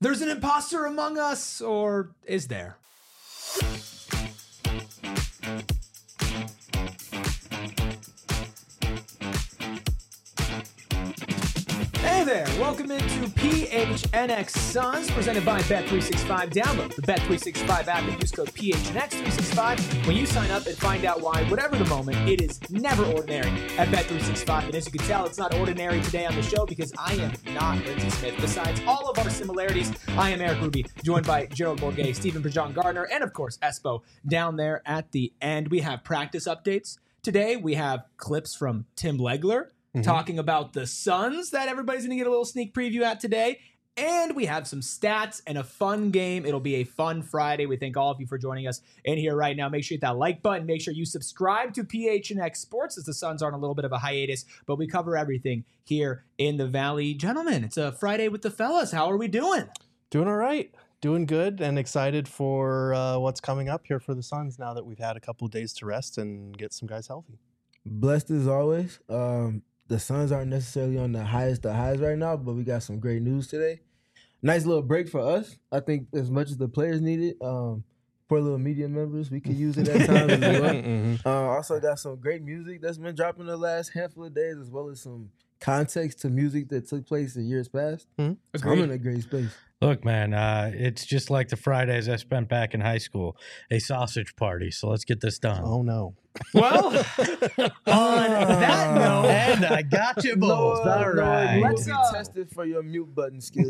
There's an imposter among us, or is there? Hey there, welcome into PHNX Suns, presented by Bet365. Download the Bet365 app and use code PHNX365 when you sign up and find out why, whatever the moment, it is never ordinary at Bet365. And as you can tell, it's not ordinary today on the show because I am not Lindsey Smith. Besides all of our similarities, I am Eric Ruby, joined by Gerald Bourguet, Stephen Prejean Gardner, and of course, Espo down there at the end. We have practice updates. Today, we have clips from Tim Legler, talking about the Suns that everybody's going to get a little sneak preview at today. And we have some stats and a fun game. It'll be a fun Friday. We thank all of you for joining us in here right now. Make sure you hit that like button. Make sure you subscribe to PHNX Sports as the Suns are on a little bit of a hiatus, but we cover everything here in the Valley. Gentlemen, it's a Friday with the fellas. How are we doing? Doing all right. Doing good and excited for what's coming up here for the Suns now that we've had a couple of days to rest and get some guys healthy. Blessed as always. The Suns aren't necessarily on the highest of highs right now, but we got some great news today. Nice little break for us. I think as much as the players need it, for little media members, we could use it at times as well. Also got some great music that's been dropping the last handful of days, as well as some context to music that took place in years past. So I'm in a great space. Look, man, it's just like the Fridays I spent back in high school, a sausage party. So let's get this done. Oh, no. Well, on that note, And I got you both. All right. Let's Let's be tested for your mute button skills.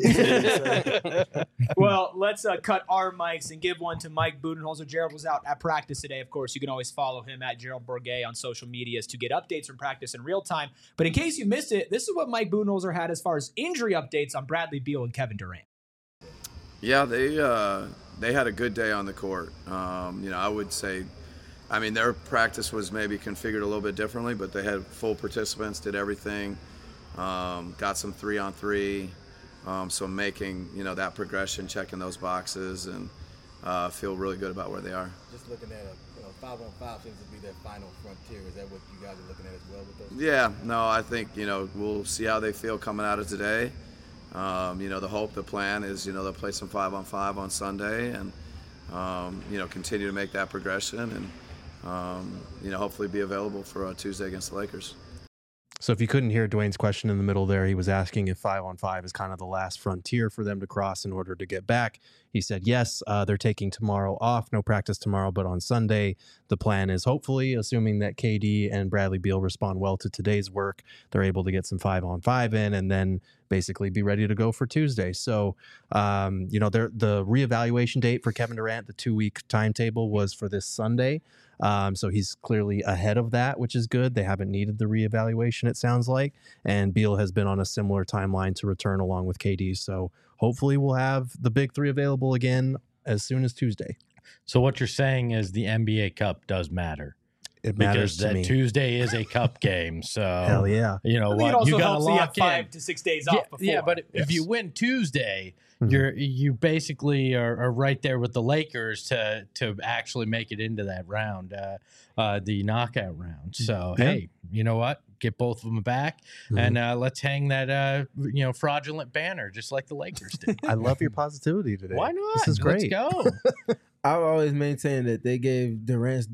well, let's cut our mics and give one to Mike Budenholzer. Gerald was out at practice today. Of course, you can always follow him at Gerald Bourguet on social medias to get updates from practice in real time. But in case you missed it, this is what Mike Budenholzer had as far as injury updates on Bradley Beal and Kevin Durant. Yeah, they had a good day on the court. I would say, their practice was maybe configured a little bit differently, but they had full participants, did everything, got some 3-on-3, so making, that progression, checking those boxes, and feel really good about where they are. Just looking at a 5-on-5 seems to be their final frontier. Is that what you guys are looking at as well with those? Yeah, no, I think, we'll see how they feel coming out of today. The hope, the plan is, they'll play some 5-on-5 on Sunday and, continue to make that progression and, hopefully be available for Tuesday against the Lakers. So if you couldn't hear Dwayne's question in the middle there, he was asking if 5-on-5 is kind of the last frontier for them to cross in order to get back. He said, yes, they're taking tomorrow off. No practice tomorrow, but on Sunday, the plan is hopefully, assuming that KD and Bradley Beal respond well to today's work, they're able to get some 5-on-5 in and then basically be ready to go for Tuesday. So, the reevaluation date for Kevin Durant, the 2-week timetable was for this Sunday. So he's clearly ahead of that, which is good. They haven't needed the reevaluation, it sounds like. And Beal has been on a similar timeline to return along with KD. So hopefully we'll have the big three available again as soon as Tuesday. So what you're saying is the NBA Cup does matter. It matters because to that me. Tuesday is a cup game. So Hell yeah. I think it also helps you have 5 to 6 days off before. Yeah, but if you win Tuesday, you basically are right there with the Lakers to actually make it into that round, the knockout round. So hey, you know what? Get both of them back, and let's hang that fraudulent banner just like the Lakers did. I love your positivity today. Why not? This is great. Let's go. I've always maintained that they gave Durant's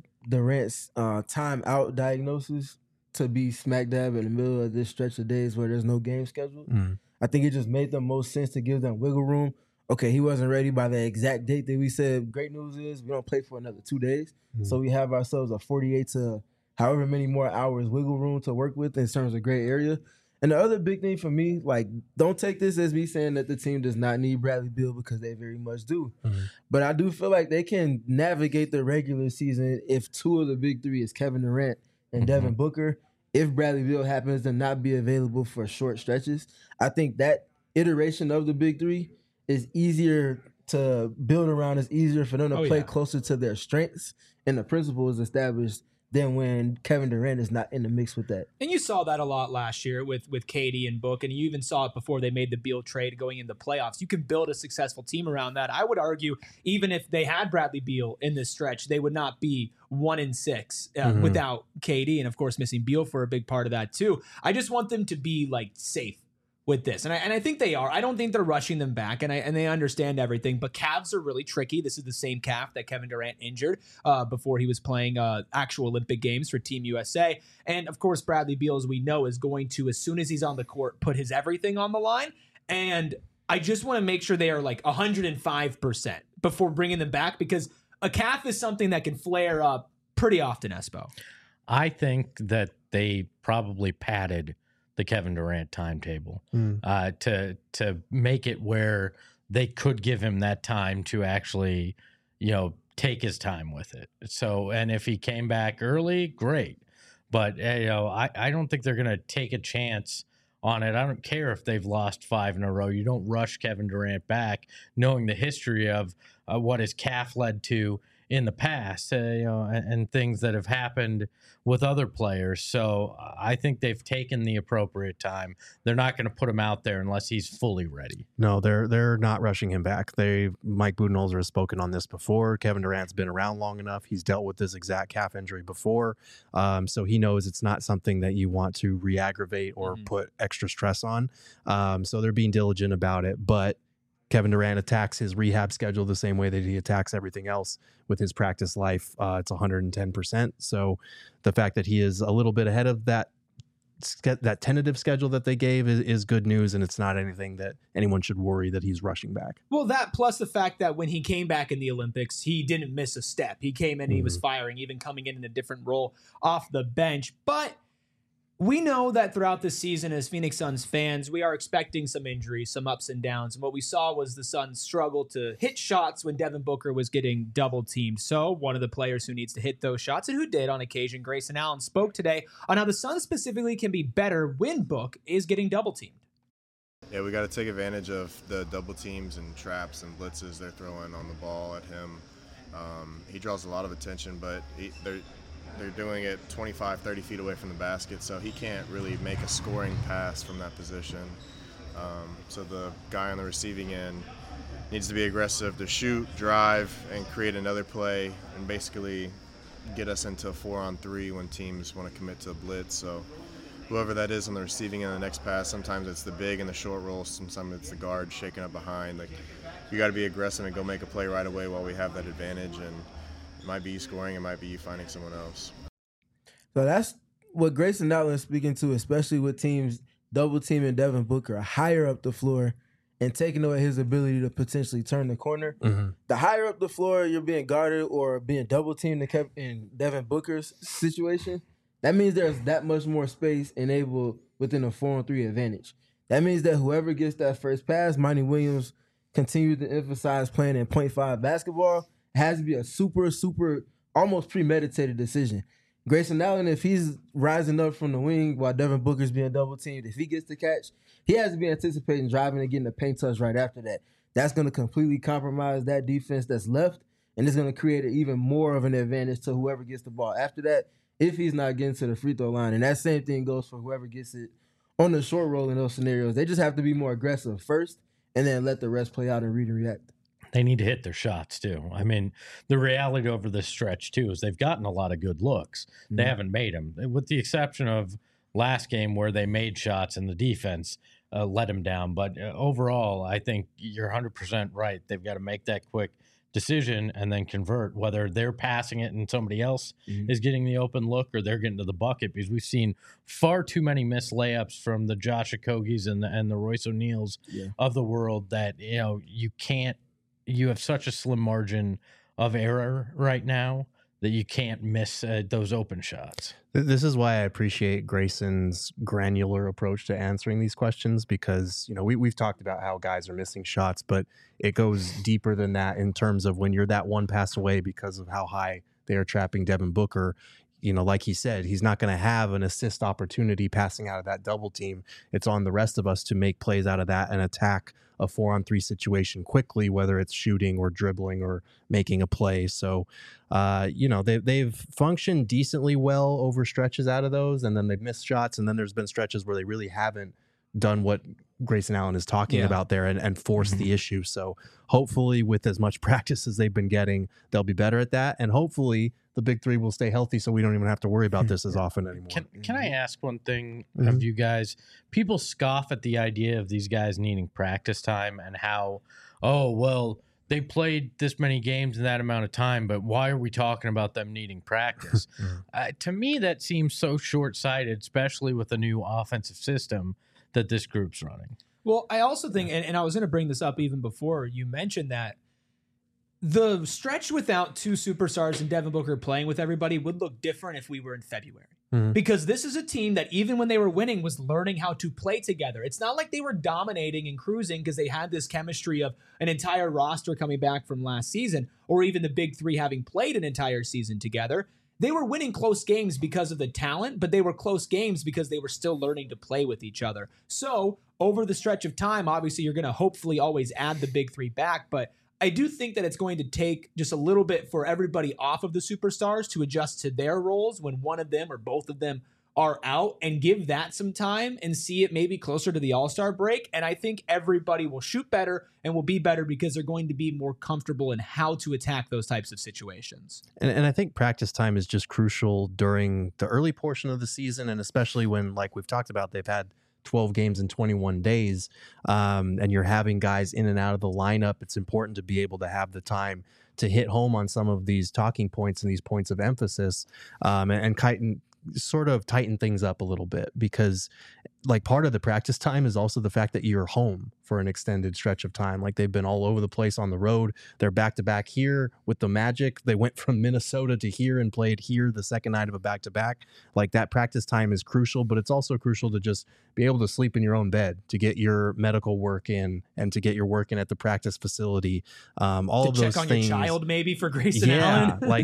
time out diagnosis to be smack dab in the middle of this stretch of days where there's no game scheduled. I think it just made the most sense to give them wiggle room. Okay, he wasn't ready by the exact date that we said. Great news is we don't play for another 2 days. So we have ourselves a 48 to however many more hours wiggle room to work with in terms of gray area. And the other big thing for me, don't take this as me saying that the team does not need Bradley Beal because they very much do. But I do feel like they can navigate the regular season if 2 of the big 3 is Kevin Durant and Devin Booker. If Bradley Beal happens to not be available for short stretches, I think that iteration of the big 3 is easier to build around. It's easier for them to play closer to their strengths and the principles established than when Kevin Durant is not in the mix with that. And you saw that a lot last year with KD and Book, and you even saw it before they made the Beal trade going into playoffs. You can build a successful team around that. I would argue even if they had Bradley Beal in this stretch, they would not be 1-6 without KD, and of course missing Beal for a big part of that too. I just want them to be safe with this. And I think they are. I don't think they're rushing them back, and they understand everything. But calves are really tricky. This is the same calf that Kevin Durant injured before he was playing actual Olympic Games for Team USA. And of course, Bradley Beal, as we know, is going to, as soon as he's on the court, put his everything on the line. And I just want to make sure they are like 105% before bringing them back, because a calf is something that can flare up pretty often, Espo. I think that they probably padded the Kevin Durant timetable to make it where they could give him that time to actually, take his time with it. So, and if he came back early, great. But, I don't think they're going to take a chance on it. I don't care if they've lost 5 in a row. You don't rush Kevin Durant back, knowing the history of what his calf led to in the past, and things that have happened with other players. So I think they've taken the appropriate time. They're not going to put him out there unless he's fully ready. No, they're not rushing him back. Mike Budenholzer has spoken on this before. Kevin Durant's been around long enough. He's dealt with this exact calf injury before. So he knows it's not something that you want to re-aggravate or put extra stress on. So they're being diligent about it. But Kevin Durant attacks his rehab schedule the same way that he attacks everything else with his practice life. It's 110%. So the fact that he is a little bit ahead of that tentative schedule that they gave is good news, and it's not anything that anyone should worry that he's rushing back. Well, that plus the fact that when he came back in the Olympics, he didn't miss a step. He came in and he was firing, even coming in a different role off the bench. But we know that throughout the season, as Phoenix Suns fans, we are expecting some injuries, some ups and downs. And what we saw was the Suns struggle to hit shots when Devin Booker was getting double teamed. So one of the players who needs to hit those shots, and who did on occasion, Grayson Allen, spoke today on how the Suns specifically can be better when Book is getting double teamed. Yeah, we got to take advantage of the double teams and traps and blitzes they're throwing on the ball at him. He draws a lot of attention, but they're doing it 25, 30 feet away from the basket, so he can't really make a scoring pass from that position. So the guy on the receiving end needs to be aggressive to shoot, drive, and create another play, and basically get us into a 4-on-3 when teams want to commit to a blitz. So whoever that is on the receiving end of the next pass, sometimes it's the big and the short roll, sometimes it's the guard shaking up behind. Like, you got to be aggressive and go make a play right away while we have that advantage, and it might be you scoring, it might be you finding someone else. So that's what Grayson Allen is speaking to, especially with teams double teaming Devin Booker higher up the floor and taking away his ability to potentially turn the corner. The higher up the floor you're being guarded or being double teamed in Devin Booker's situation, that means there's that much more space enabled within a 4-on-3 advantage. That means that whoever gets that first pass, Monty Williams continues to emphasize playing in 0.5 basketball. It has to be a super, almost premeditated decision. Grayson Allen, if he's rising up from the wing while Devin Booker's being double teamed, if he gets the catch, he has to be anticipating driving and getting a paint touch right after that. That's going to completely compromise that defense that's left, and it's going to create even more of an advantage to whoever gets the ball after that if he's not getting to the free throw line. And that same thing goes for whoever gets it on the short roll in those scenarios. They just have to be more aggressive first and then let the rest play out and read and react. They need to hit their shots, too. I mean, the reality over this stretch, too, is they've gotten a lot of good looks. They haven't made them, with the exception of last game where they made shots and the defense let them down. But overall, I think you're 100% right. They've got to make that quick decision and then convert, whether they're passing it and somebody else is getting the open look or they're getting to the bucket, because we've seen far too many missed layups from the Josh Okogis and the Royce O'Neals of the world that, you can't. You have such a slim margin of error right now that you can't miss those open shots. This is why I appreciate Grayson's granular approach to answering these questions, because, we've talked about how guys are missing shots, but it goes deeper than that in terms of when you're that one pass away because of how high they are trapping Devin Booker. Like he said, he's not going to have an assist opportunity passing out of that double team. It's on the rest of us to make plays out of that and attack a 4-on-3 situation quickly, whether it's shooting or dribbling or making a play. So, they've functioned decently well over stretches out of those, and then they've missed shots, and then there's been stretches where they really haven't done what Grayson Allen is talking about there and forced the issue. So hopefully with as much practice as they've been getting, they'll be better at that. And hopefully the big three will stay healthy so we don't even have to worry about this as often anymore. Can I ask one thing of you guys? People scoff at the idea of these guys needing practice time and how, oh, well, they played this many games in that amount of time, but why are we talking about them needing practice? To me, that seems so short-sighted, especially with the new offensive system that this group's running. Well, I also think, and I was going to bring this up even before you mentioned that, the stretch without two superstars and Devin Booker playing with everybody would look different if we were in February. Because this is a team that even when they were winning was learning how to play together. It's not like they were dominating and cruising because they had this chemistry of an entire roster coming back from last season, or even the big three having played an entire season together. They were winning close games because of the talent, but they were close games because they were still learning to play with each other. So over the stretch of time, obviously you're going to hopefully always add the big three back, but I do think that it's going to take just a little bit for everybody off of the superstars to adjust to their roles when one of them or both of them are out, and give that some time and see it maybe closer to the All-Star break. And I think everybody will shoot better and will be better because they're going to be more comfortable in how to attack those types of situations. And I think practice time is just crucial during the early portion of the season, and especially when, like we've talked about, they've had 12 games in 21 days, and you're having guys in and out of the lineup. It's important to be able to have the time to hit home on some of these talking points and these points of emphasis, and sort of tighten things up a little bit, because like part of the practice time is also the fact that you're home for an extended stretch of time. Like they've been all over the place on the road. They're back to back here with the Magic. They went from Minnesota to here and played here the second night of a back to back. Like that practice time is crucial, but it's also crucial to just be able to sleep in your own bed, to get your medical work in, and to get your work in at the practice facility. All of those things. Check on your child maybe for Grayson Allen. Like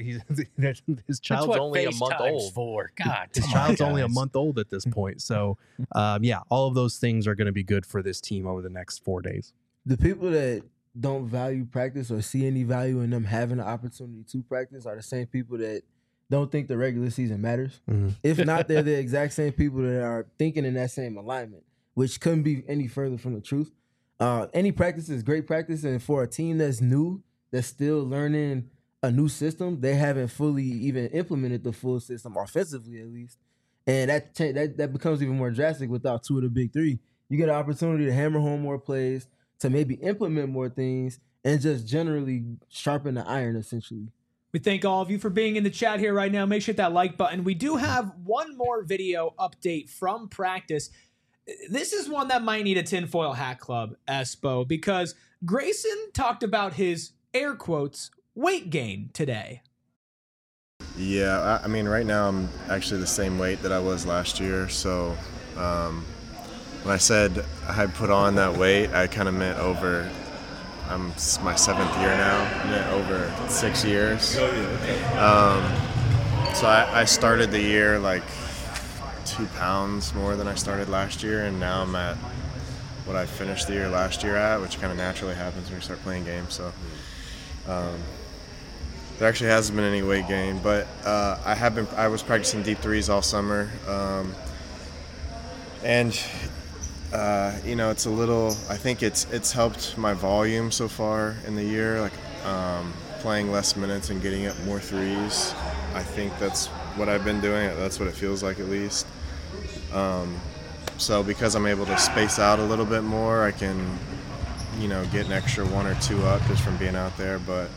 his child's only a month old. God, his child's only a month old at this point. So all of those things are going to be good for this team over the next 4 days. The people that don't value practice or see any value in them having the opportunity to practice are the same people that don't think the regular season matters. If not, they're the exact same people that are thinking in that same alignment, which couldn't be any further from the truth. Any practice is great practice, and for a team that's new, that's still learning a new system, they haven't fully even implemented the full system offensively, at least. And that becomes even more drastic without two of the big three. You get an opportunity to hammer home more plays, to maybe implement more things, and just generally sharpen the iron, essentially. We thank all of you for being in the chat here right now. Make sure to hit that like button. We do have one more video update from practice. This is one that might need a tinfoil hat club, Espo, because Grayson talked about his, air quotes, weight gain today. Yeah, I mean, right now I'm actually the same weight that I was last year. So when I said I had put on that weight, I kind of meant over, it's my 7th year now, I meant over 6 years. So I started the year like 2 pounds more than I started last year, and now I'm at what I finished the year last year at, which kind of naturally happens when you start playing games. So there actually hasn't been any weight gain, but I was practicing deep threes all summer, and it's a little. I think it's helped my volume so far in the year, like playing less minutes and getting up more threes. I think that's what I've been doing. That's what it feels like, at least. So because I'm able to space out a little bit more, I can, get an extra 1 or 2 up just from being out there, but.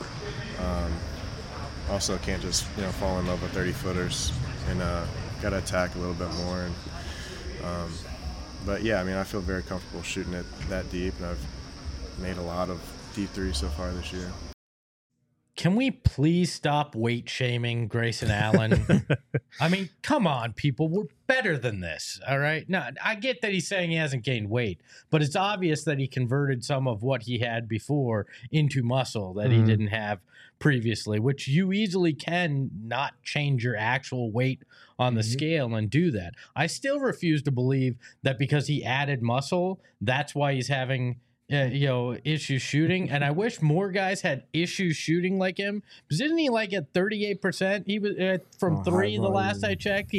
Also can't just fall in love with 30-footers, and got to attack a little bit more. And but yeah, I mean, I feel very comfortable shooting it that deep, and I've made a lot of deep threes so far this year. Can we please stop weight shaming Grayson Allen? I mean, come on, people. We're better than this, all right? Now, I get that he's saying he hasn't gained weight, but it's obvious that he converted some of what he had before into muscle that he didn't have previously, which you easily can not change your actual weight on the scale and do that. I still refuse to believe that because he added muscle, that's why he's having issues shooting, and I wish more guys had issues shooting like him. Because isn't he like at 38%? He was from three the last I checked.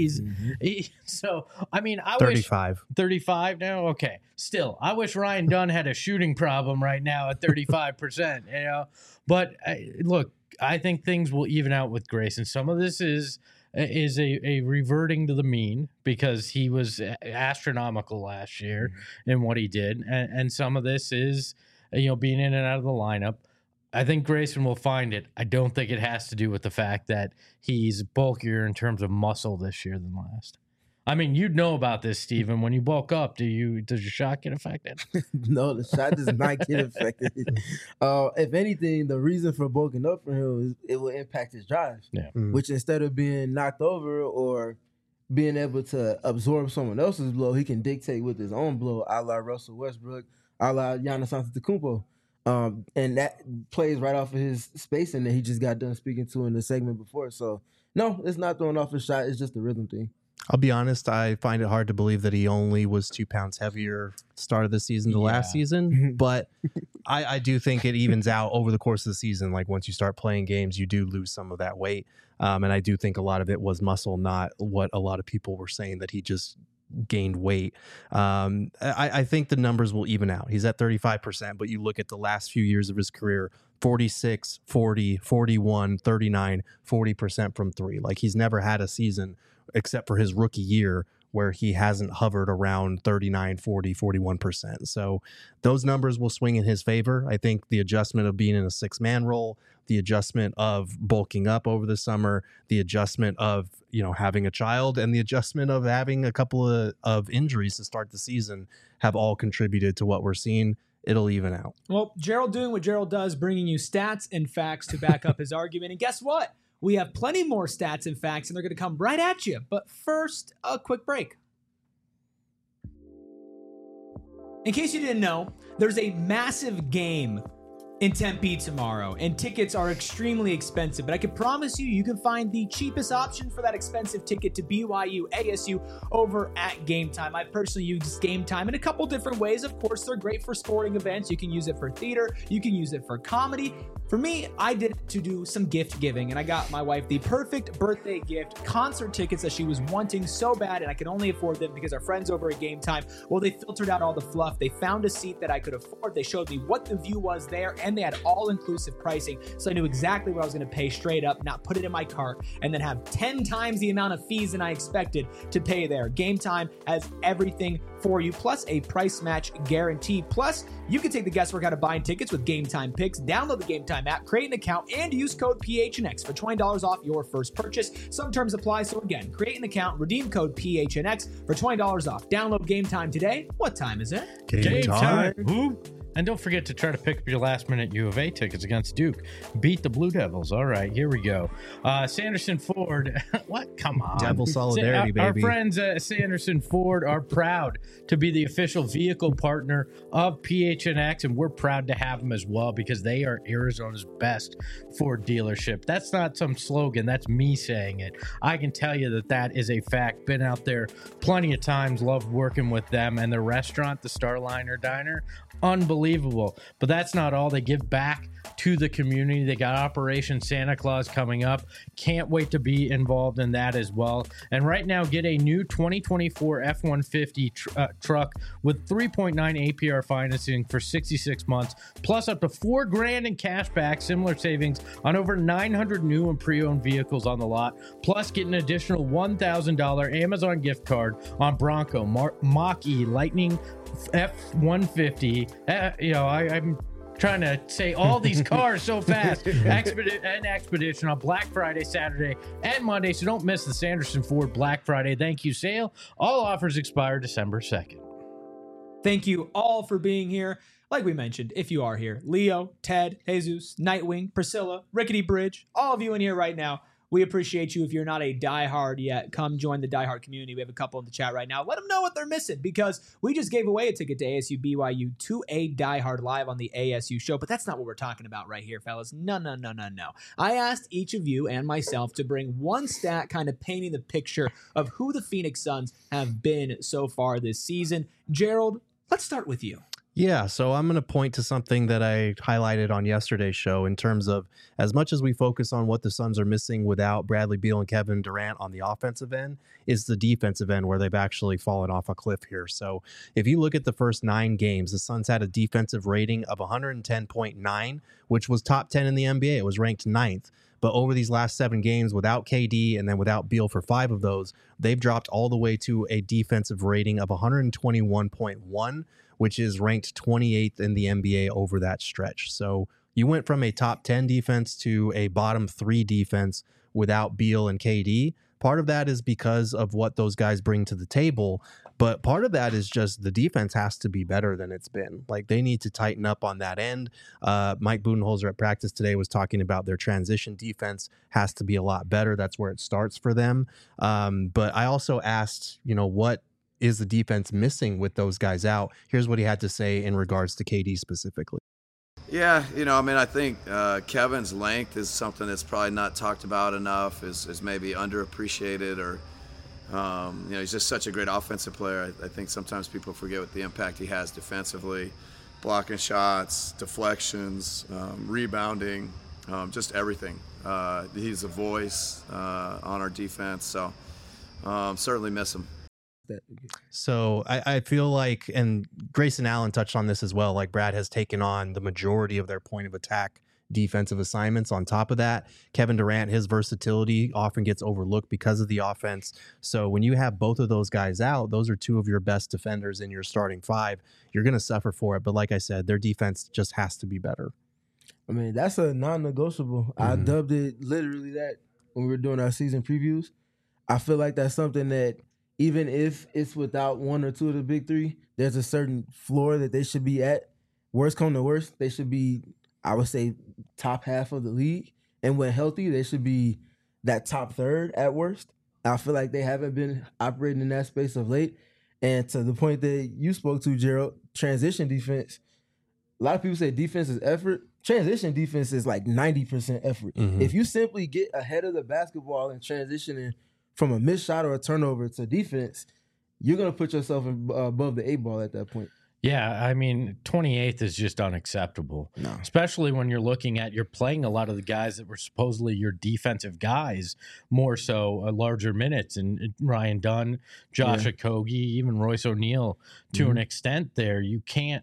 So I mean, I 35. 35 now. Okay, still, I wish Ryan Dunn had a shooting problem right now at 35%. But look, I think things will even out with Grayson. Some of this is a reverting to the mean because he was astronomical last year in what he did, and some of this is being in and out of the lineup. I think Grayson will find it. I don't think it has to do with the fact that he's bulkier in terms of muscle this year than last. I mean, you'd know about this, Steven. When you bulk up, does your shot get affected? No, the shot does not get affected. If anything, the reason for bulking up for him is it will impact his drives. Yeah. Which instead of being knocked over or being able to absorb someone else's blow, he can dictate with his own blow, a la Russell Westbrook, a la Giannis Antetokounmpo. And that plays right off of his spacing that he just got done speaking to in the segment before. So, no, it's not throwing off his shot. It's just a rhythm thing. I'll be honest, I find it hard to believe that he only was 2 pounds heavier start of the season to last season. But I do think it evens out over the course of the season. Like once you start playing games, you do lose some of that weight. And I do think a lot of it was muscle, not what a lot of people were saying that he just gained weight. I think the numbers will even out. He's at 35%, but you look at the last few years of his career, 46, 40, 41, 39, 40% from three. Like he's never had a season except for his rookie year where he hasn't hovered around 39, 40, 41%. So those numbers will swing in his favor. I think the adjustment of being in a 6-man role, the adjustment of bulking up over the summer, the adjustment of, having a child, and the adjustment of having a couple of injuries to start the season have all contributed to what we're seeing. It'll even out. Well, Gerald doing what Gerald does, bringing you stats and facts to back up his argument. And guess what? We have plenty more stats and facts, and they're going to come right at you. But first, a quick break. In case you didn't know, there's a massive game in Tempe tomorrow, and tickets are extremely expensive, but I can promise you can find the cheapest option for that expensive ticket to BYU ASU over at Game Time. I personally use Game Time in a couple different ways. Of course, they're great for sporting events. You can use it for theater. You can use it for comedy. For me, I did it to do some gift giving, and I got my wife the perfect birthday gift, concert tickets that she was wanting so bad, and I could only afford them because our friends over at Game Time, well, they filtered out all the fluff. They found a seat that I could afford. They showed me what the view was there, and they had all-inclusive pricing, so I knew exactly what I was going to pay straight up, not put it in my cart, and then have 10 times the amount of fees than I expected to pay there. Game Time has everything for you, plus a price match guarantee. Plus, you can take the guesswork out of buying tickets with Game Time Picks. Download the Game Time app, create an account, and use code PHNX for $20 off your first purchase. Some terms apply, so again, create an account, redeem code PHNX for $20 off. Download Game Time today. What time is it? Game time. Woo. And don't forget to try to pick up your last-minute U of A tickets against Duke. Beat the Blue Devils. All right, here we go. Sanderson Ford. What? Come on. Devil solidarity, baby. Our friends at Sanderson Ford are proud to be the official vehicle partner of PHNX, and we're proud to have them as well because they are Arizona's best Ford dealership. That's not some slogan. That's me saying it. I can tell you that is a fact. Been out there plenty of times. Loved working with them. And the restaurant, the Starliner Diner, unbelievable. But that's not all. They give back to the community. They got Operation Santa Claus coming up. Can't wait to be involved in that as well. And right now, get a new 2024 F-150 truck with 3.9 APR financing for 66 months, plus up to $4,000 in cash back, similar savings on over 900 new and pre-owned vehicles on the lot, plus get an additional $1,000 Amazon gift card on Bronco, Mach-E, Lightning, F-150. I'm trying to say all these cars so fast. Expedition on Black Friday, Saturday, and Monday. So don't miss the Sanderson Ford Black Friday thank you sale. All offers expire December 2nd. Thank you all for being here. Like we mentioned, if you are here, Leo, Ted, Jesus, Nightwing, Priscilla, Rickety Bridge, all of you in here right now, we appreciate you. If you're not a diehard yet, come join the diehard community. We have a couple in the chat right now. Let them know what they're missing because we just gave away a ticket to ASU BYU to a diehard live on the ASU show. But that's not what we're talking about right here, fellas. No. I asked each of you and myself to bring one stat kind of painting the picture of who the Phoenix Suns have been so far this season. Gerald, let's start with you. Yeah, so I'm going to point to something that I highlighted on yesterday's show in terms of as much as we focus on what the Suns are missing without Bradley Beal and Kevin Durant on the offensive end, is the defensive end where they've actually fallen off a cliff here. So if you look at the first 9 games, the Suns had a defensive rating of 110.9, which was top 10 in the NBA. It was ranked 9th. But over these last 7 games without KD and then without Beal for 5 of those, they've dropped all the way to a defensive rating of 121.1, which is ranked 28th in the NBA over that stretch. So you went from a top 10 defense to a bottom 3 defense without Beal and KD. Part of that is because of what those guys bring to the table, but part of that is just the defense has to be better than it's been. Like, they need to tighten up on that end. Mike Budenholzer at practice today was talking about their transition defense has to be a lot better. That's where it starts for them. But I also asked, what is the defense missing with those guys out? Here's what he had to say in regards to KD specifically. Yeah, I think Kevin's length is something that's probably not talked about enough, is maybe underappreciated, or, he's just such a great offensive player. I think sometimes people forget what the impact he has defensively, blocking shots, deflections, rebounding, just everything. He's a voice on our defense, so certainly miss him. So I feel like, and Grayson Allen touched on this as well, like Brad has taken on the majority of their point of attack defensive assignments. On top of that, Kevin Durant, his versatility often gets overlooked because of the offense. So when you have both of those guys out, those are 2 of your best defenders in your starting 5. You're going to suffer for it. But like I said, their defense just has to be better. I mean, that's a non-negotiable. I dubbed it literally that when we were doing our season previews. I feel like that's something that even if it's without 1 or 2 of the big 3, there's a certain floor that they should be at. Worst come to worst, they should be, I would say, top half of the league. And when healthy, they should be that top 3rd at worst. I feel like they haven't been operating in that space of late. And to the point that you spoke to, Gerald, transition defense, a lot of people say defense is effort. Transition defense is like 90% effort. If you simply get ahead of the basketball and transitioning from a missed shot or a turnover to defense, you're going to put yourself above the 8 ball at that point. Yeah, I mean, 28th is just unacceptable, especially when you're looking at, you're playing a lot of the guys that were supposedly your defensive guys, more so larger minutes, and Ryan Dunn, Josh Okogie, even Royce O'Neal to an extent there. You can't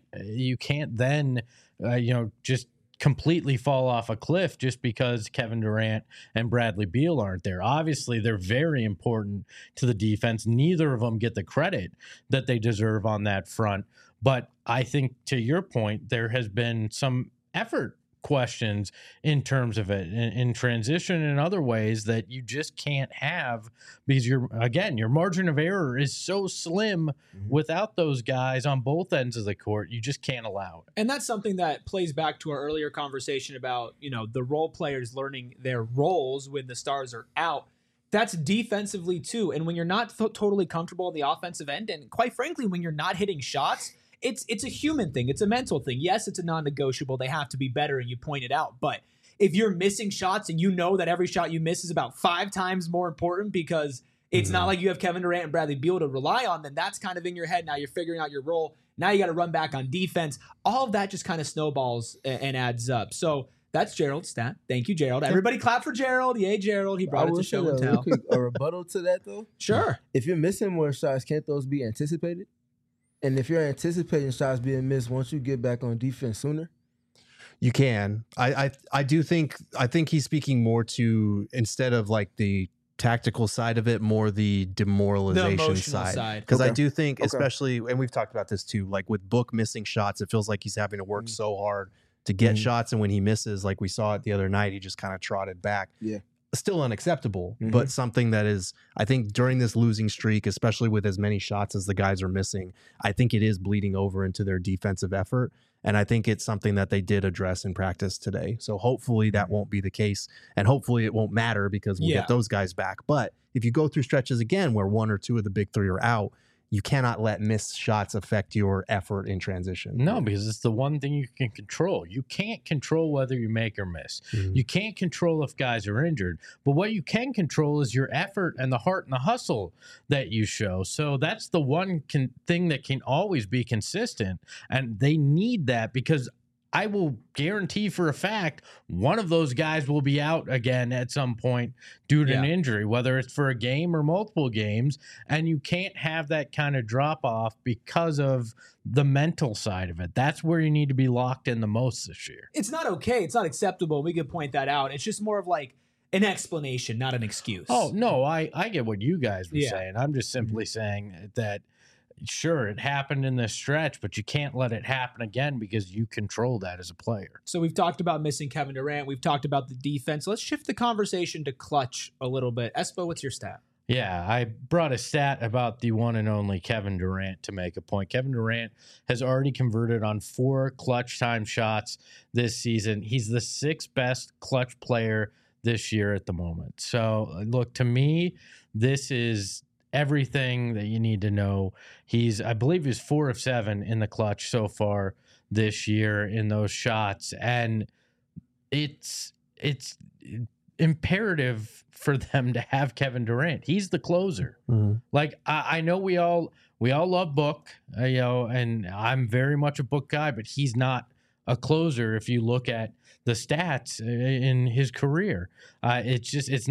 then, just completely fall off a cliff just because Kevin Durant and Bradley Beal aren't there. Obviously, they're very important to the defense. Neither of them get the credit that they deserve on that front. But I think, to your point, there has been some effort questions in terms of it, in transition and other ways that you just can't have, because your margin of error is so slim without those guys on both ends of the court. You just can't allow it. And that's something that plays back to our earlier conversation about, the role players learning their roles when the stars are out. That's defensively too. And when you're not totally comfortable on the offensive end, and quite frankly, when you're not hitting shots, it's a human thing. It's a mental thing. Yes, it's a non-negotiable. They have to be better, and you point it out. But if you're missing shots and you know that every shot you miss is about 5 times more important because it's not like you have Kevin Durant and Bradley Beal to rely on, then that's kind of in your head. Now you're figuring out your role. Now you got to run back on defense. All of that just kind of snowballs and adds up. So that's Gerald's stat. Thank you, Gerald. Everybody clap for Gerald. Yay, Gerald. He brought it to show and tell. A rebuttal to that, though? Sure. If you're missing more shots, can't those be anticipated? And if you're anticipating shots being missed, won't you get back on defense sooner? You can. I think he's speaking more to, instead of like the tactical side of it, more the demoralization side. Because I do think, especially, and we've talked about this too, like with Book missing shots, it feels like he's having to work so hard to get shots, and when he misses, like we saw it the other night, he just kind of trotted back. Yeah. Still unacceptable, but something that is, I think, during this losing streak, especially with as many shots as the guys are missing, I think it is bleeding over into their defensive effort. And I think it's something that they did address in practice today. So hopefully that won't be the case. And hopefully it won't matter because we'll get those guys back. But if you go through stretches again where 1 or 2 of the big 3 are out, you cannot let missed shots affect your effort in transition. No, because it's the one thing you can control. You can't control whether you make or miss. You can't control if guys are injured. But what you can control is your effort and the heart and the hustle that you show. So that's the one thing that can always be consistent. And they need that, because I will guarantee for a fact one of those guys will be out again at some point due to an injury, whether it's for a game or multiple games. And you can't have that kind of drop off because of the mental side of it. That's where you need to be locked in the most this year. It's not okay. It's not acceptable. We could point that out. It's just more of like an explanation, not an excuse. Oh, no, I get what you guys were saying. I'm just simply saying that, sure, it happened in this stretch, but you can't let it happen again because you control that as a player. So we've talked about missing Kevin Durant. We've talked about the defense. Let's shift the conversation to clutch a little bit. Espo, what's your stat? Yeah, I brought a stat about the one and only Kevin Durant to make a point. Kevin Durant has already converted on 4 clutch time shots this season. He's the 6th best clutch player this year at the moment. So, look, to me, this is everything that you need to know. I believe he's 4 of 7 in the clutch so far this year in those shots. And it's imperative for them to have Kevin Durant. He's the closer. Like, I know we all love Book, and I'm very much a Book guy, but he's not a closer if you look at the stats in his career. It's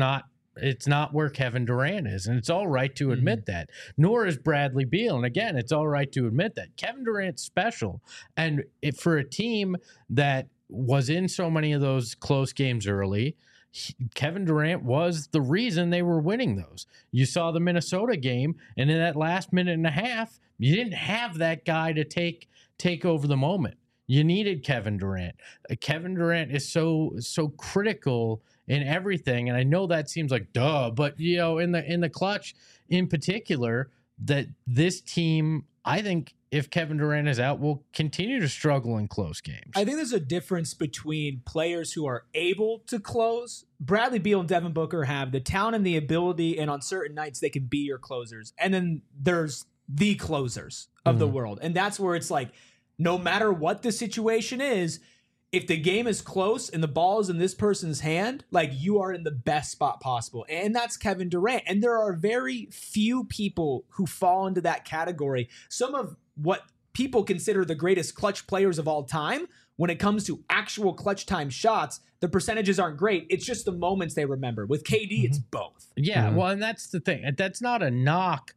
not where Kevin Durant is, and it's all right to admit that. Nor is Bradley Beal, and again, it's all right to admit that. Kevin Durant's special, and for a team that was in so many of those close games early, Kevin Durant was the reason they were winning those. You saw the Minnesota game, and in that last minute and a half, you didn't have that guy to take over the moment. You needed Kevin Durant. Kevin Durant is so critical in everything, and I know that seems like duh, but in the clutch in particular, that this team, I think, if Kevin Durant is out, will continue to struggle in close games. I think there's a difference between players who are able to close. Bradley Beal and Devin Booker have the talent and the ability, and on certain nights they can be your closers. And then there's the closers of the world, and that's where it's like, no matter what the situation is, if the game is close and the ball is in this person's hand, like, you are in the best spot possible. And that's Kevin Durant. And there are very few people who fall into that category. Some of what people consider the greatest clutch players of all time, when it comes to actual clutch time shots, the percentages aren't great. It's just the moments they remember. With KD, it's both. Yeah, well, and that's the thing. That's not a knock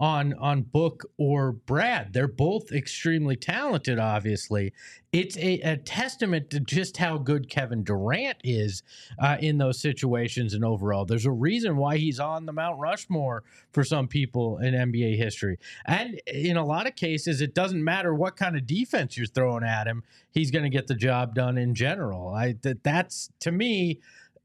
on Book or Brad. They're both extremely talented, obviously. It's a testament to just how good Kevin Durant is in those situations and overall. There's a reason why he's on the Mount Rushmore for some people in NBA history. And in a lot of cases, it doesn't matter what kind of defense you're throwing at him. He's going to get the job done in general. That's, to me,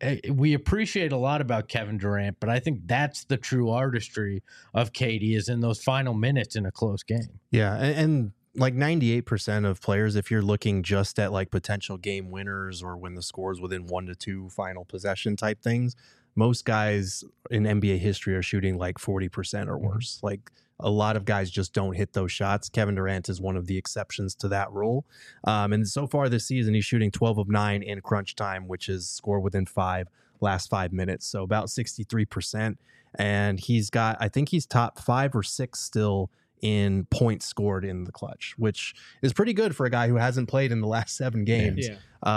we appreciate a lot about Kevin Durant, but I think that's the true artistry of KD, is in those final minutes in a close game. Yeah, and like 98% of players, if you're looking just at like potential game winners or when the score's within 1 to 2 final possession type things, most guys in NBA history are shooting like 40% or worse. Like, a lot of guys just don't hit those shots. Kevin Durant is one of the exceptions to that rule. And so far this season, he's shooting 12 of 9 in crunch time, which is score within 5, last 5 minutes. So about 63%. And I think he's top 5 or 6 still in points scored in the clutch, which is pretty good for a guy who hasn't played in the last 7 games.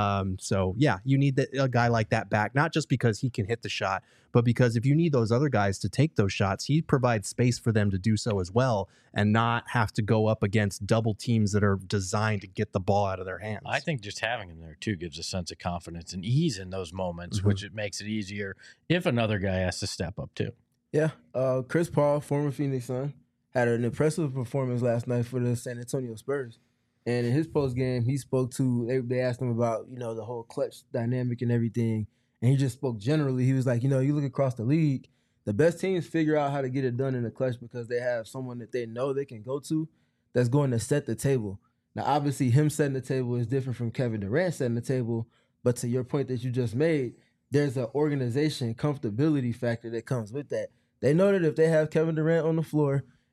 So yeah, you need a guy like that back, not just because he can hit the shot, but because if you need those other guys to take those shots, he provides space for them to do so as well and not have to go up against double teams that are designed to get the ball out of their hands. I think just having him there too gives a sense of confidence and ease in those moments, which it makes it easier if another guy has to step up too. Yeah. Chris Paul, former Phoenix Sun, had an impressive performance last night for the San Antonio Spurs. And in his post game, he spoke to, they asked him about, the whole clutch dynamic and everything. And he just spoke generally. He was like, you look across the league, the best teams figure out how to get it done in the clutch because they have someone that they know they can go to that's going to set the table. Now, obviously, him setting the table is different from Kevin Durant setting the table. But to your point that you just made, there's an organization comfortability factor that comes with that. They know that if they have Kevin Durant on the floor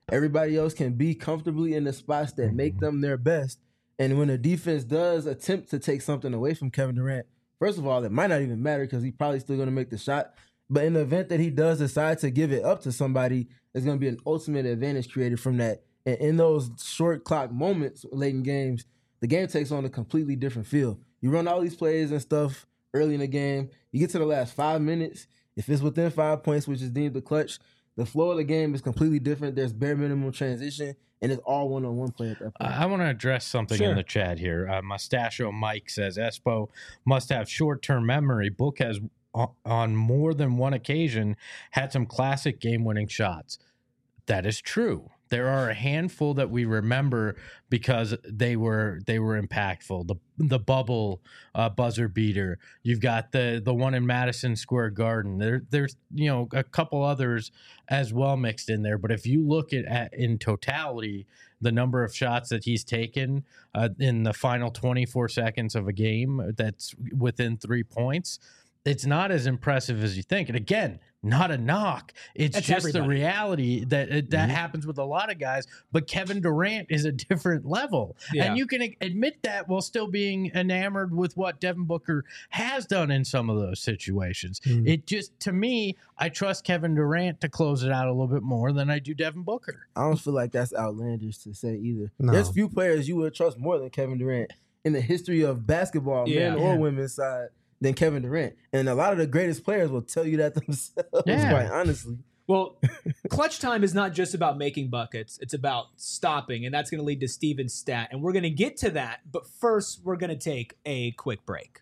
Everybody else can be comfortably in the spots that make them their best. And when a defense does attempt to take something away from Kevin Durant, first of all, it might not even matter because he's probably still going to make the shot. But in the event that he does decide to give it up to somebody, there's going to be an ultimate advantage created from that. And in those short clock moments late in games, the game takes on a completely different feel. You run all these plays and stuff early in the game. You get to the last 5 minutes. If it's within 5 points, which is deemed the clutch, the flow of the game is completely different. There's bare minimum transition, and it's all one-on-one play at that point. I want to address something in the chat here. Mustachio Mike says, Espo must have short-term memory. Book has, on more than one occasion, had some classic game-winning shots. That is true. There are a handful that we remember because they were impactful. The bubble buzzer beater. You've got the one in Madison Square Garden. There's a couple others as well mixed in there. But if you look at in totality, the number of shots that he's taken in the final 24 seconds of a game that's within 3 points, it's not as impressive as you think. And again, not a knock. It's just everybody. The reality that happens with a lot of guys. But Kevin Durant is a different level. Yeah. And you can admit that while still being enamored with what Devin Booker has done in some of those situations. It just, to me, I trust Kevin Durant to close it out a little bit more than I do Devin Booker. I don't feel like that's outlandish to say either. No. There's few players you would trust more than Kevin Durant in the history of basketball, men or women's side, than Kevin Durant. And a lot of the greatest players will tell you that themselves, quite honestly. Well, clutch time is not just about making buckets. It's about stopping, and that's going to lead to Steven's stat. And we're going to get to that, but first we're going to take a quick break.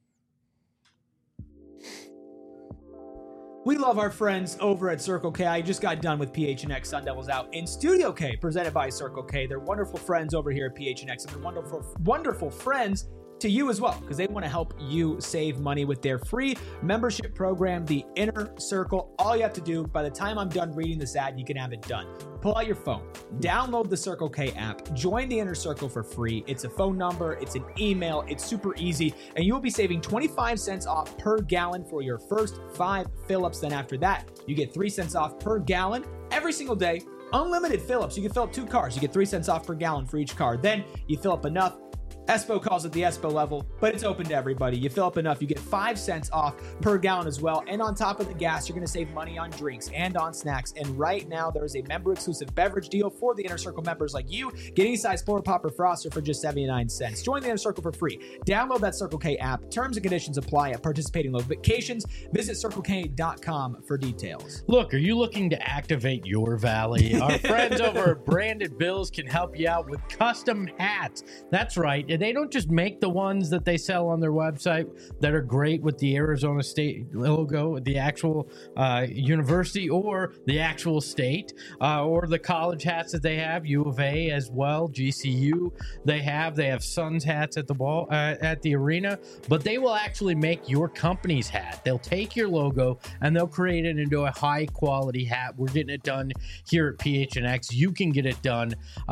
We love our friends over at Circle K. I just got done with PHNX Sun Devils Out in Studio K, presented by Circle K. They're wonderful friends over here at PHNX, and they're wonderful friends to you as well, because they want to help you save money with their free membership program, the Inner Circle. All you have to do, by the time I'm done reading this ad, you can have it done. Pull out your phone, download the Circle K app, join the Inner Circle for free. It's a phone number, it's an email, it's super easy, and you will be saving 25 cents off per gallon for your first 5 fill-ups. Then after that, you get 3 cents off per gallon every single day. Unlimited fill-ups. You can fill up 2 cars. You get 3 cents off per gallon for each car. Then you fill up enough. Espo calls it the Espo level, but it's open to everybody. You fill up enough, you get 5 cents off per gallon as well. And on top of the gas, you're going to save money on drinks and on snacks. And right now, there is a member-exclusive beverage deal for the Inner Circle members like you. Get any size Polar Pop or Froster for just 79 cents. Join the Inner Circle for free. Download that Circle K app. Terms and conditions apply at participating locations. Visit CircleK.com for details. Look, are you looking to activate your valley? Our friends over at Branded Bills can help you out with custom hats. That's right. They don't just make the ones that they sell on their website that are great with the Arizona State logo, the actual university or the actual state, or the college hats that they have, U of A as well, GCU. They have Suns hats at the ball at the arena, but they will actually make your company's hat. They'll take your logo and they'll create it into a high quality hat. We're getting it done here at PHNX. You can get it done